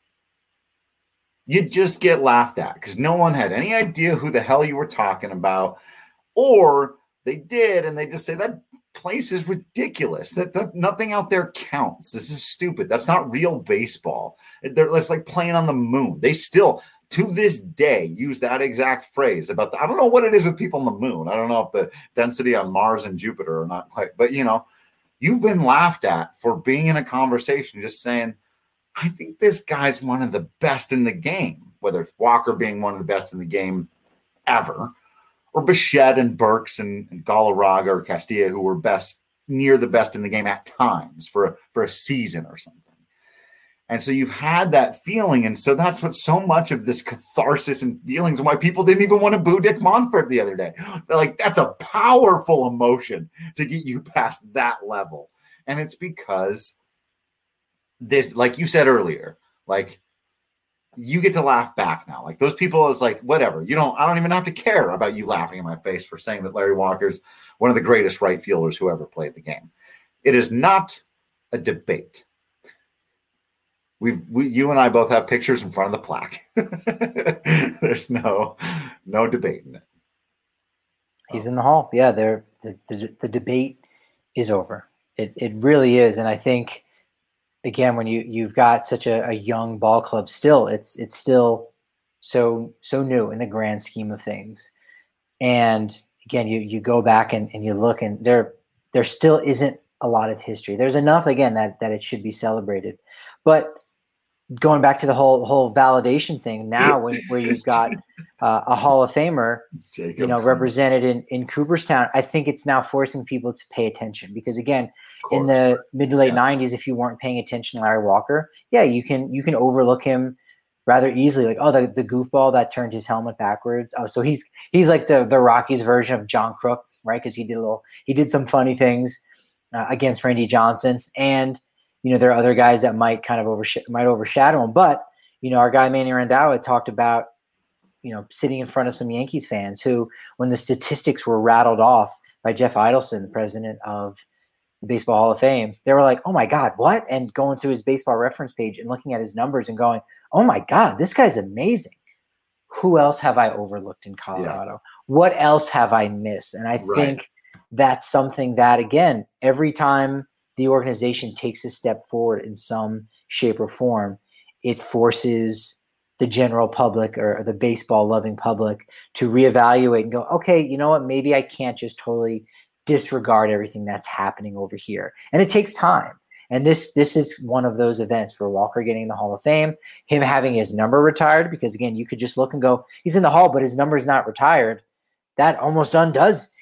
You'd just get laughed at because no one had any idea who the hell you were talking about, or they did, and they just say that place is ridiculous. That nothing out there counts. This is stupid. That's not real baseball. It's like playing on the moon. They still, to this day, use that exact phrase about I don't know what it is with people on the moon. I don't know if the density on Mars and Jupiter are not quite, but you've been laughed at for being in a conversation just saying, I think this guy's one of the best in the game, whether it's Walker being one of the best in the game ever, or Bichette and Burks and Galarraga or Castilla, who were near the best in the game at times for a season or something. And so you've had that feeling. And so that's what so much of this catharsis and feelings and why people didn't even want to boo Dick Monfort the other day. They're like, that's a powerful emotion to get you past that level. And it's because this, like you said earlier, like you get to laugh back now. Like those people is like, whatever, I don't even have to care about you laughing in my face for saying that Larry Walker's one of the greatest right fielders who ever played the game. It is not a debate. You and I both have pictures in front of the plaque. There's no debating it. He's in the hall. Yeah, the debate is over. It really is. And I think, again, when you've got such a young ball club still, it's still so new in the grand scheme of things. And again, you go back and you look, and there still isn't a lot of history. There's enough, again, that it should be celebrated. But going back to the whole validation thing now, where you've got a Hall of Famer, represented in Cooperstown, I think it's now forcing people to pay attention because, again, in the mid to late 90s, if you weren't paying attention to Larry Walker, yeah, you can overlook him rather easily. Like, oh, the goofball that turned his helmet backwards. Oh, so he's like the Rockies version of John Crook, right? Because he did some funny things against Randy Johnson, and there are other guys that might kind of overshadow him. But our guy Manny Randall had talked about sitting in front of some Yankees fans who, when the statistics were rattled off by Jeff Idelson, the president of the Baseball Hall of Fame, they were like, oh my God, what? And going through his baseball reference page and looking at his numbers and going, oh my God, this guy's amazing. Who else have I overlooked in Colorado? Yeah. What else have I missed? And I think that's something that, again, every time the organization takes a step forward in some shape or form, it forces the general public or the baseball loving public to reevaluate and go, okay, you know what? Maybe I can't just totally disregard everything that's happening over here. And it takes time. And this is one of those events for Walker getting in the Hall of Fame, him having his number retired, because again, you could just look and go, he's in the Hall, but his number is not retired. That almost undoes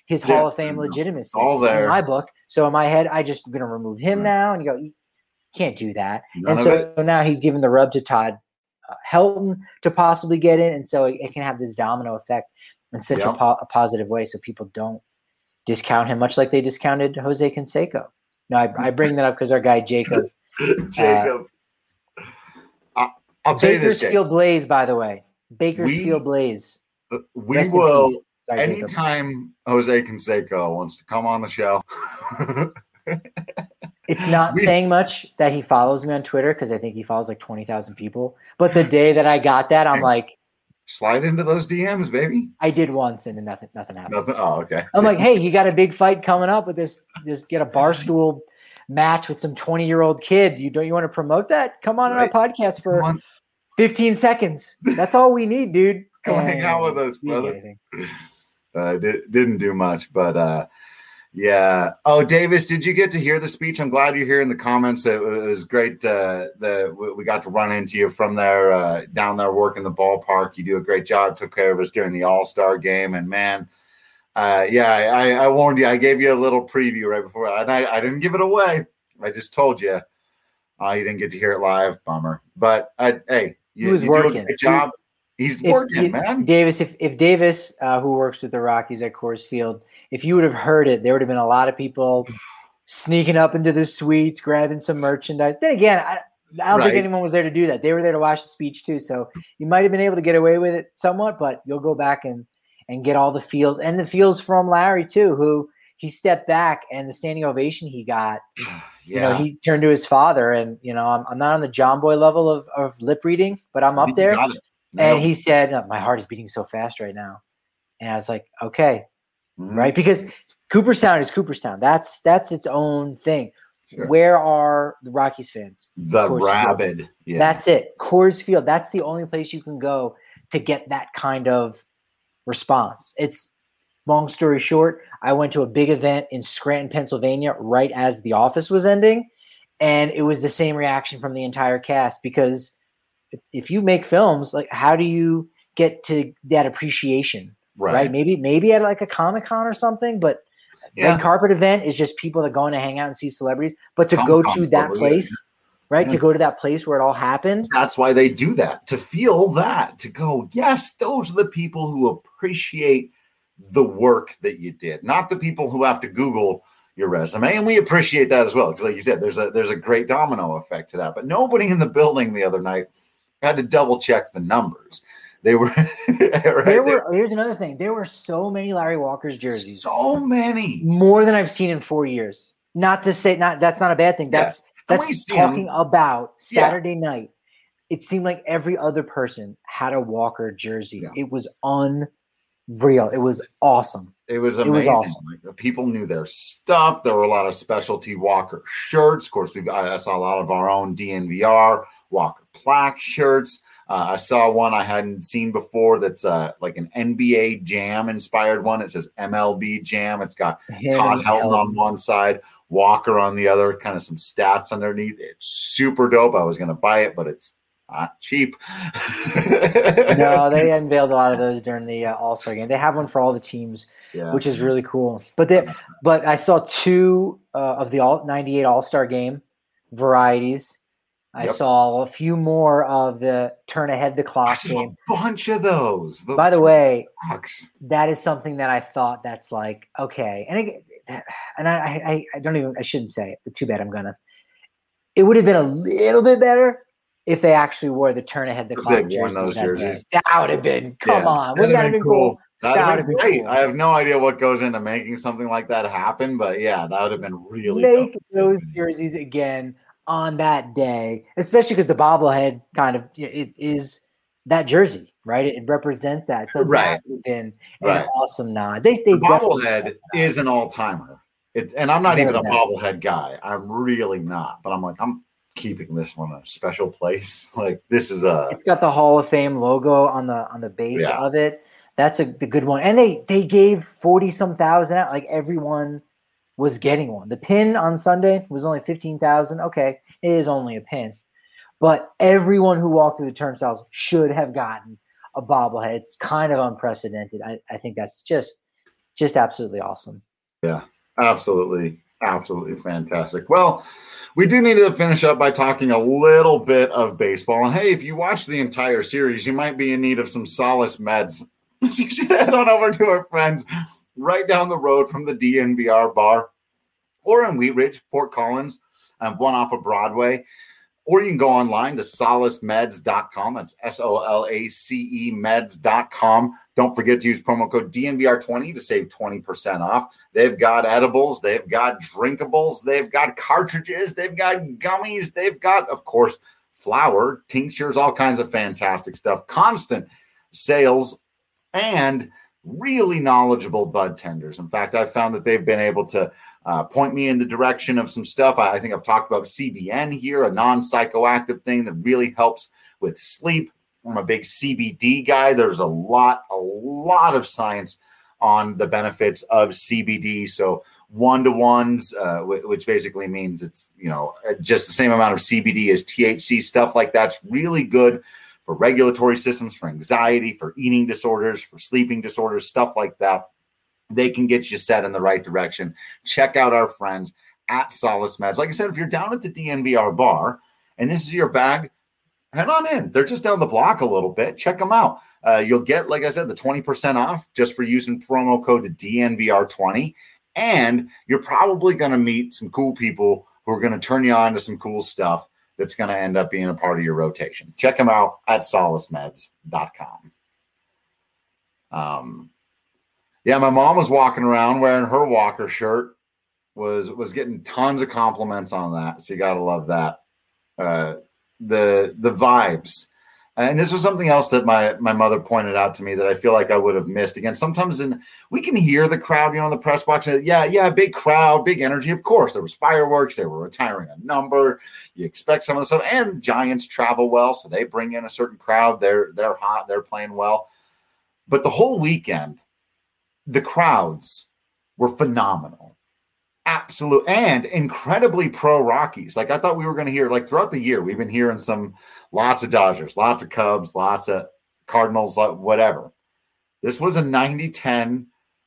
his Hall of Fame legitimacy all there in my book. So in my head, I just going to remove him now, and you go, you can't do that. None and so now he's giving the rub to Todd Helton to possibly get in, and so it can have this domino effect in such a positive way, so people don't discount him, much like they discounted Jose Canseco. No, I bring that up because our guy Jacob. I'll tell you this, Bakersfield Blaze, by the way. Bakersfield Blaze. We will, anytime Jose Canseco wants to come on the show. It's not saying much that he follows me on Twitter because I think he follows like 20,000 people. But the day that I got that, I'm like, slide into those DMs, baby. I did once and then nothing happened. Nothing. Oh, okay. I'm like, hey, you got a big fight coming up with this get a barstool match with some 20-year-old kid. You want to promote that? Come on our podcast for 15 seconds. That's all we need, dude. Come hang out with us, brother. Didn't do much, but yeah. Oh, Davis, did you get to hear the speech? I'm glad you're here in the comments. It was great. We got to run into you from there, down there working the ballpark. You do a great job. Took care of us during the All-Star game. And man, I warned you. I gave you a little preview right before. And I didn't give it away. I just told you. You didn't get to hear it live. Bummer. But hey, you do a great job. He's working, man. Davis, if Davis, who works with the Rockies at Coors Field, if you would have heard it, there would have been a lot of people sneaking up into the suites, grabbing some merchandise. Then again, I don't think anyone was there to do that. They were there to watch the speech too. So you might have been able to get away with it somewhat, but you'll go back and get all the feels. And the feels from Larry too, who he stepped back and the standing ovation he got. You know, he turned to his father and, you know, I'm not on the John Boy level of lip reading, but I'm up there. And he said, my heart is beating so fast right now. And I was like, okay. Right, because Cooperstown is Cooperstown. That's its own thing. Sure. Where are the Rockies fans? The rabid. Yeah. That's it. Coors Field. That's the only place you can go to get that kind of response. It's long story short. I went to a big event in Scranton, Pennsylvania, right as The Office was ending, and it was the same reaction from the entire cast. Because if you make films, like, how do you get to that appreciation? Right. Maybe at like a Comic-Con or something, but red carpet event is just people that are going to hang out and see celebrities. But to go to that place, to go to that place where it all happened. That's why they do that, to feel that, to go, yes, those are the people who appreciate the work that you did, not the people who have to Google your resume. And we appreciate that as well. Because like you said, there's a great domino effect to that. But nobody in the building the other night had to double check the numbers. They were Here's another thing. There were so many Larry Walker's jerseys. So many. More than I've seen in 4 years. Not to say that's not a bad thing. That's talking about Saturday night. It seemed like every other person had a Walker jersey. Yeah. It was unreal. It was awesome. It was amazing. It was awesome. Like, people knew their stuff. There were a lot of specialty Walker shirts. Of course, I saw a lot of our own DNVR Walker plaque shirts. I saw one I hadn't seen before that's like an NBA Jam inspired one. It says MLB Jam. It's got Todd Helton on one side, Walker on the other, kind of some stats underneath. It's super dope. I was going to buy it, but it's not cheap. No, they unveiled a lot of those during the All-Star game. They have one for all the teams, which is really cool. But I saw two of the 98 All-Star game varieties. I saw a few more of the turn ahead the clock game. A bunch of those. By the way, that is something that I thought that's like, okay. And I shouldn't say it, but too bad I'm gonna. It would have been a little bit better if they actually wore the turn ahead the clock jerseys. That would have been, come on. Wouldn't that have been cool? That would have been great. Cool. I have no idea what goes into making something like that happen, but yeah, that would have been really Make those jerseys again on that day, especially because the bobblehead kind of it is that jersey, right? It represents that. So that would have been an awesome nod. The bobblehead is an all-timer. And I'm not even a bobblehead guy. I'm really not. But I'm like, I'm keeping this one a special place. Like, this is it's got the Hall of Fame logo on the base of it. That's the good one. And they gave 40-some thousand out. Like, everyone was getting one. The pin on Sunday was only 15,000. Okay, it is only a pin. But everyone who walked through the turnstiles should have gotten a bobblehead. It's kind of unprecedented. I think that's just just absolutely awesome. Yeah, absolutely. Absolutely fantastic. Well, we do need to finish up by talking a little bit of baseball. And hey, if you watch the entire series, you might be in need of some Solace meds. So you should head on over to our friends right down the road from the DNVR bar or in Wheat Ridge, Fort Collins, one off of Broadway. Or you can go online to solacemeds.com. That's SOLACE meds.com. Don't forget to use promo code DNVR20 to save 20% off. They've got edibles. They've got drinkables. They've got cartridges. They've got gummies. They've got, of course, flour, tinctures, all kinds of fantastic stuff. Constant sales and really knowledgeable bud tenders. In fact, I've found that they've been able to point me in the direction of some stuff. I think I've talked about CBN here, a non-psychoactive thing that really helps with sleep. I'm a big CBD guy. There's a lot of science on the benefits of CBD. So 1-to-1s, which basically means it's, just the same amount of CBD as THC, stuff like that's really good for regulatory systems, for anxiety, for eating disorders, for sleeping disorders, stuff like that. They can get you set in the right direction. Check out our friends at Solace Meds. Like I said, if you're down at the DNVR bar and this is your bag, head on in. They're just down the block a little bit. Check them out. You'll get, like I said, the 20% off just for using promo code DNVR20. And you're probably going to meet some cool people who are going to turn you on to some cool stuff that's going to end up being a part of your rotation. Check them out at solacemeds.com. Yeah, my mom was walking around wearing her Walker shirt, was getting tons of compliments on that. So you got to love that. The vibes. And this was something else that my mother pointed out to me that I feel like I would have missed. Again, sometimes we can hear the crowd, in the press box. And yeah, big crowd, big energy. Of course, there was fireworks. They were retiring a number. You expect some of the stuff. And Giants travel well, so they bring in a certain crowd. They're hot. They're playing well. But the whole weekend, the crowds were phenomenal. Absolute and incredibly pro Rockies. Like I thought we were going to hear, like throughout the year, we've been hearing lots of Dodgers, lots of Cubs, lots of Cardinals, whatever. This was a 90-10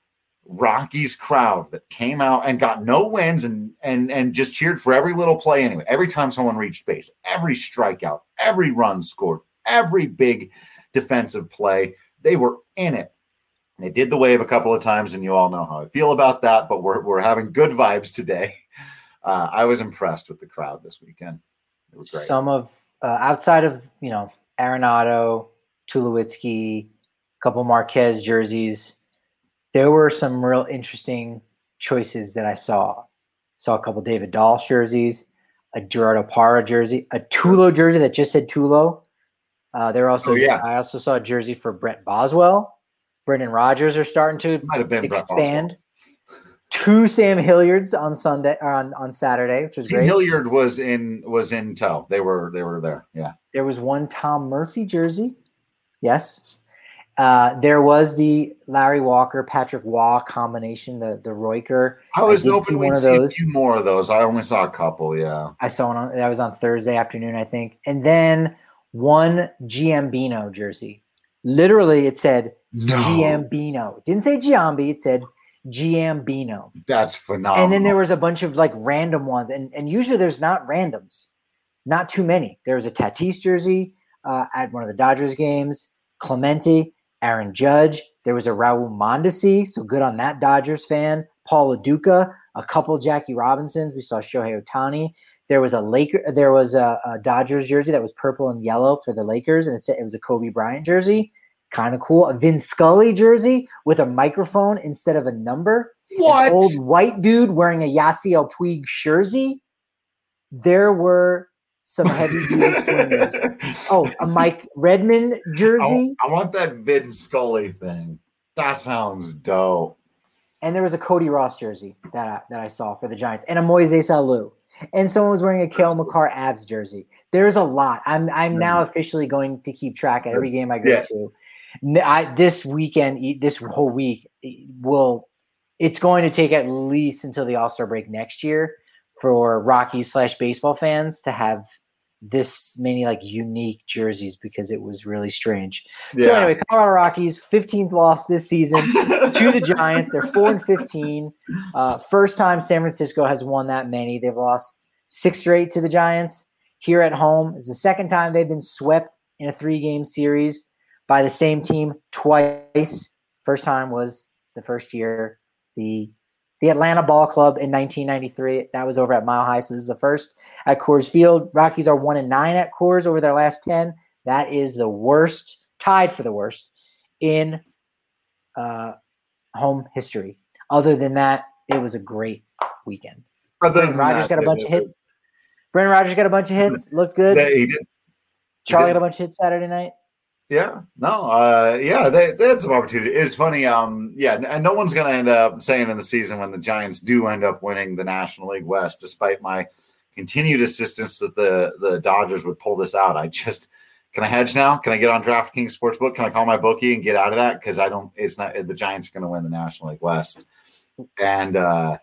Rockies crowd that came out and got no wins and just cheered for every little play anyway. Every time someone reached base, every strikeout, every run scored, every big defensive play, they were in it. They did the wave a couple of times, and you all know how I feel about that, but we're having good vibes today. I was impressed with the crowd this weekend. It was great. Some of, outside of, Arenado, Tulowitzki, a couple Marquez jerseys, there were some real interesting choices that I saw. Saw a couple David Dahl jerseys, a Gerardo Parra jersey, a Tulo jersey that just said Tulo. I also saw a jersey for Brett Boswell. Brendan Rodgers are starting to expand. 2 Sam Hilliards on Sunday or on Saturday, which was great. Hilliard was in tow. They were there. Yeah. There was one Tom Murphy jersey. Yes. There was the Larry Walker, Patrick Waugh combination, the Royker. I was hoping we'd see a few more of those. I only saw a couple. Yeah. I saw one that was on Thursday afternoon, I think, and then one Giambino jersey. Literally, it said Giambino. It didn't say Giambi. It said Giambino. That's phenomenal. And then there was a bunch of like random ones. And usually there's not randoms. Not too many. There was a Tatis jersey at one of the Dodgers games. Clemente, Aaron Judge. There was a Raul Mondesi. So good on that Dodgers fan. Paul LaDuca. A couple Jackie Robinsons. We saw Shohei Ohtani. There was a Dodgers jersey that was purple and yellow for the Lakers, and it was a Kobe Bryant jersey. Kind of cool. A Vin Scully jersey with a microphone instead of a number. What? An old white dude wearing a Yasiel Puig jersey. There were some heavy-duty swingers. Oh, a Mike Redmond jersey. I want that Vin Scully thing. That sounds dope. And there was a Cody Ross jersey that I saw for the Giants, and a Moises Alou. And someone was wearing a Cale Makar Avs jersey. There's a lot. I'm now officially going to keep track at every game I go to. This weekend, this whole week, it's going to take at least until the All-Star break next year for Rockies /baseball fans to have this many like unique jerseys because it was really strange. Yeah. So anyway, Colorado Rockies 15th loss this season to the Giants. They're 4-15. First time San Francisco has won that many. They've lost 6 straight to the Giants here at home. It's the second time they've been swept in a 3-game series by the same team twice. First time was the first year the Atlanta Ball Club in 1993. That was over at Mile High, so this is the first at Coors Field. Rockies are 1-9 at Coors over their last 10. That is the worst, tied for the worst in home history. Other than that, it was a great weekend. Brendan Rodgers got a bunch of hits. Brendan Rodgers got a bunch of hits. Looked good. He did. Charlie got a bunch of hits Saturday night. Yeah, no, they had some opportunity. It's funny, and no one's going to end up saying in the season when the Giants do end up winning the National League West, despite my continued insistence that the Dodgers would pull this out. Can I hedge now? Can I get on DraftKings Sportsbook? Can I call my bookie and get out of that? Because the Giants are going to win the National League West, and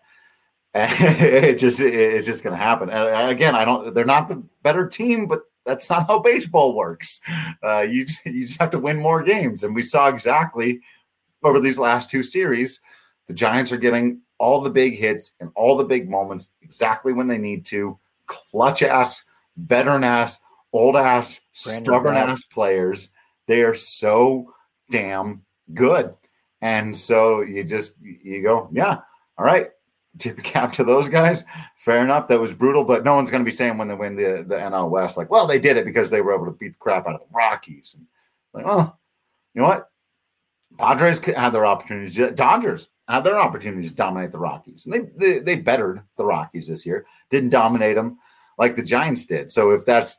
it's just going to happen. And again, they're not the better team, but that's not how baseball works. You just have to win more games. And we saw exactly over these last 2 series, the Giants are getting all the big hits and all the big moments exactly when they need to. Clutch-ass, veteran-ass, old-ass, stubborn-ass players. They are so damn good. And so you go, yeah, all right. Tip your cap to those guys. Fair enough. That was brutal, but no one's going to be saying when they win the NL West, like, well, they did it because they were able to beat the crap out of the Rockies. And like, oh, you know what? Padres had their opportunities. Dodgers had their opportunities to dominate the Rockies, and they bettered the Rockies this year. Didn't dominate them like the Giants did. So if that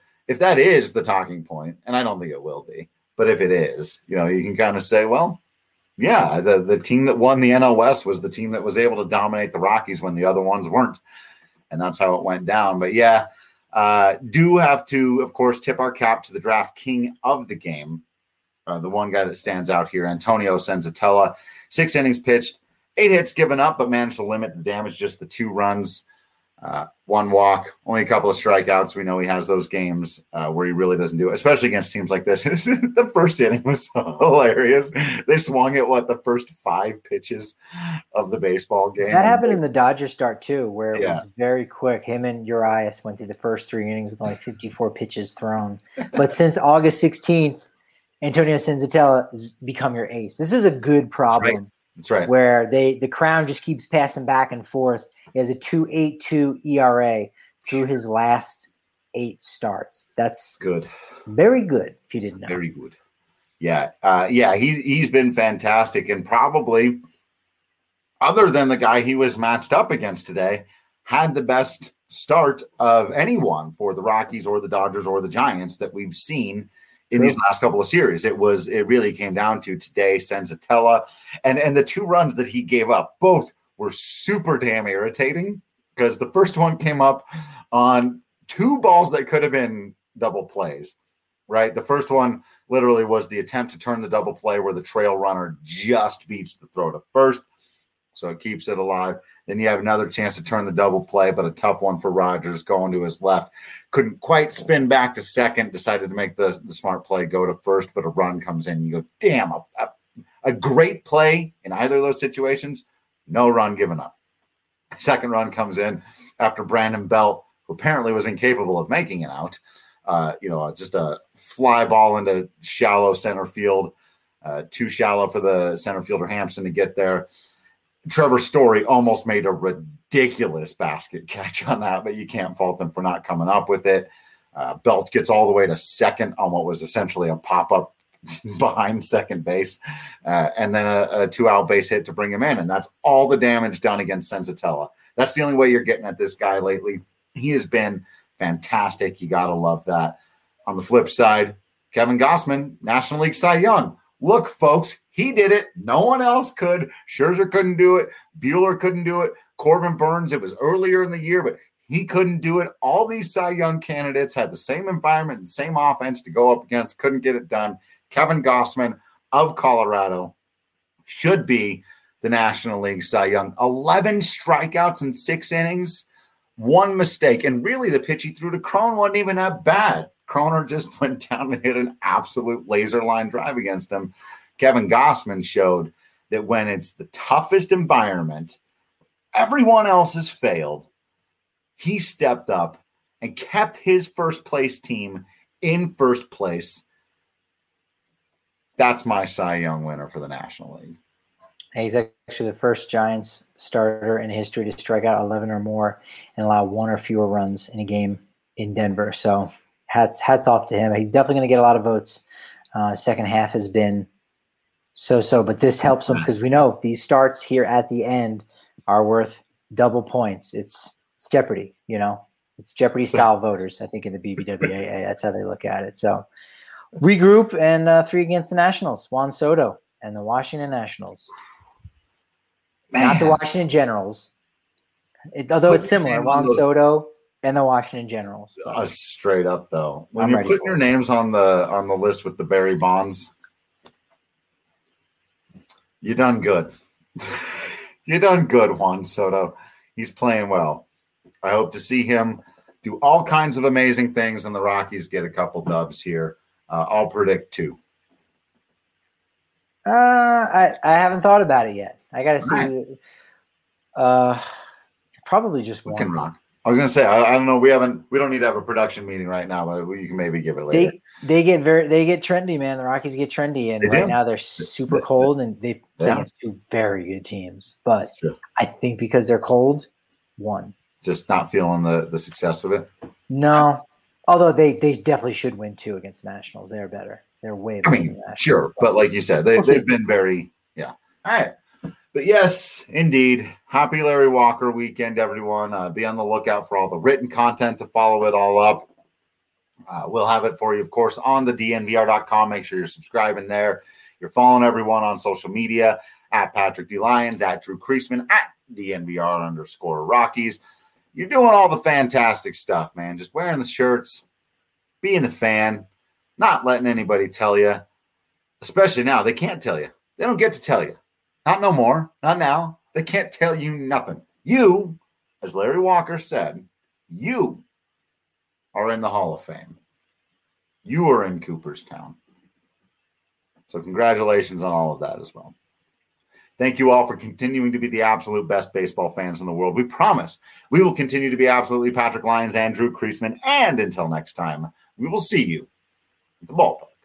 is the talking point, and I don't think it will be, but if it is, you can kind of say, well, yeah, the team that won the NL West was the team that was able to dominate the Rockies when the other ones weren't. And that's how it went down. But yeah, do have to, of course, tip our cap to the draft king of the game. The one guy that stands out here, Antonio Senzatella. 6 innings pitched, 8 hits given up, but managed to limit the damage, just the 2 runs. 1 walk, only a couple of strikeouts. We know he has those games where he really doesn't do it, especially against teams like this. The first inning was so hilarious. They swung at the first 5 pitches of the baseball game. That happened in the Dodgers start too, where it was very quick. Him and Urias went through the first 3 innings with only 54 pitches thrown. But since August 16th, Antonio Senzatella has become your ace. This is a good problem. That's right. Where the crown just keeps passing back and forth. He has a 2.82 ERA through his last 8 starts. That's good. Very good, if you didn't know. Very good. Yeah. He's been fantastic, and probably, other than the guy he was matched up against today, had the best start of anyone for the Rockies or the Dodgers or the Giants that we've seen in these last couple of series. It really came down to today, Senzatella, and the 2 runs that he gave up, both were super damn irritating, because the first one came up on 2 balls that could have been double plays, right? The first one literally was the attempt to turn the double play where the trail runner just beats the throw to first, so it keeps it alive. Then you have another chance to turn the double play, but a tough one for Rodgers going to his left. Couldn't quite spin back to second, decided to make the smart play, go to first, but a run comes in. You go, damn, a great play in either of those situations, no run given up. Second run comes in after Brandon Belt, who apparently was incapable of making it out. Just a fly ball into shallow center field, too shallow for the center fielder Hampson to get there. Trevor Story almost made a ridiculous basket catch on that, but you can't fault them for not coming up with it. Belt gets all the way to second on what was essentially a pop-up behind second base, and then a 2-out base hit to bring him in, and that's all the damage done against Senzatella. That's the only way you're getting at this guy lately. He has been fantastic. You got to love that. On the flip side, Kevin Gausman, National League Cy Young. Look, folks, he did it. No one else could. Scherzer couldn't do it. Buehler couldn't do it. Corbin Burns, it was earlier in the year, but he couldn't do it. All these Cy Young candidates had the same environment and same offense to go up against, couldn't get it done. Kevin Gausman of Colorado should be the National League Cy Young. 11 strikeouts in 6 innings. one mistake. And really, the pitch he threw to Cron wasn't even that bad. Croner just went down and hit an absolute laser line drive against him. Kevin Gossman showed that when it's the toughest environment, everyone else has failed, he stepped up and kept his first place team in first place. That's my Cy Young winner for the National League. He's actually the first Giants starter in history to strike out 11 or more and allow one or fewer runs in a game in Denver. So hats off to him. He's definitely going to get a lot of votes. Second half has been so, but this helps him because we know these starts here at the end are worth double points. It's Jeopardy, It's Jeopardy-style voters, I think, in the BBWAA. That's how they look at it. So regroup and 3 against the Nationals. Juan Soto and the Washington Nationals. Man. Not the Washington Generals. Although it's similar. Juan Soto and the Washington Generals. So. Straight up, though. When you're putting your names on the list with the Barry Bonds, you done good. You done good, Juan Soto. He's playing well. I hope to see him do all kinds of amazing things, and the Rockies get a couple dubs here. I'll predict 2. I haven't thought about it yet. I got to see. Right. Probably just one. Can rock. I was going to say I don't know. We don't need to have a production meeting right now, but you can maybe give it later. They get trendy, man. The Rockies get trendy, and right now they're super cold, and they play against 2 very good teams. But I think because they're cold, 1. Just not feeling the success of it. No, although they definitely should win 2 against the Nationals. They're better. They're way better. Than the Nationals, sure, but like you said, they've been very All right. But yes, indeed. Happy Larry Walker weekend, everyone. Be on the lookout for all the written content to follow it all up. We'll have it for you, of course, on the DNVR.com. Make sure you're subscribing there. You're following everyone on social media, at Patrick D. Lyons, at Drew Creasman, at DNVR_Rockies. You're doing all the fantastic stuff, man. Just wearing the shirts, being the fan, not letting anybody tell you, especially now. They can't tell you. They don't get to tell you. Not no more. Not now. They can't tell you nothing. You, as Larry Walker said, you are in the Hall of Fame. You are in Cooperstown. So congratulations on all of that as well. Thank you all for continuing to be the absolute best baseball fans in the world. We promise we will continue to be absolutely Patrick Lyons and Drew Creasman. And until next time, we will see you at the ballpark.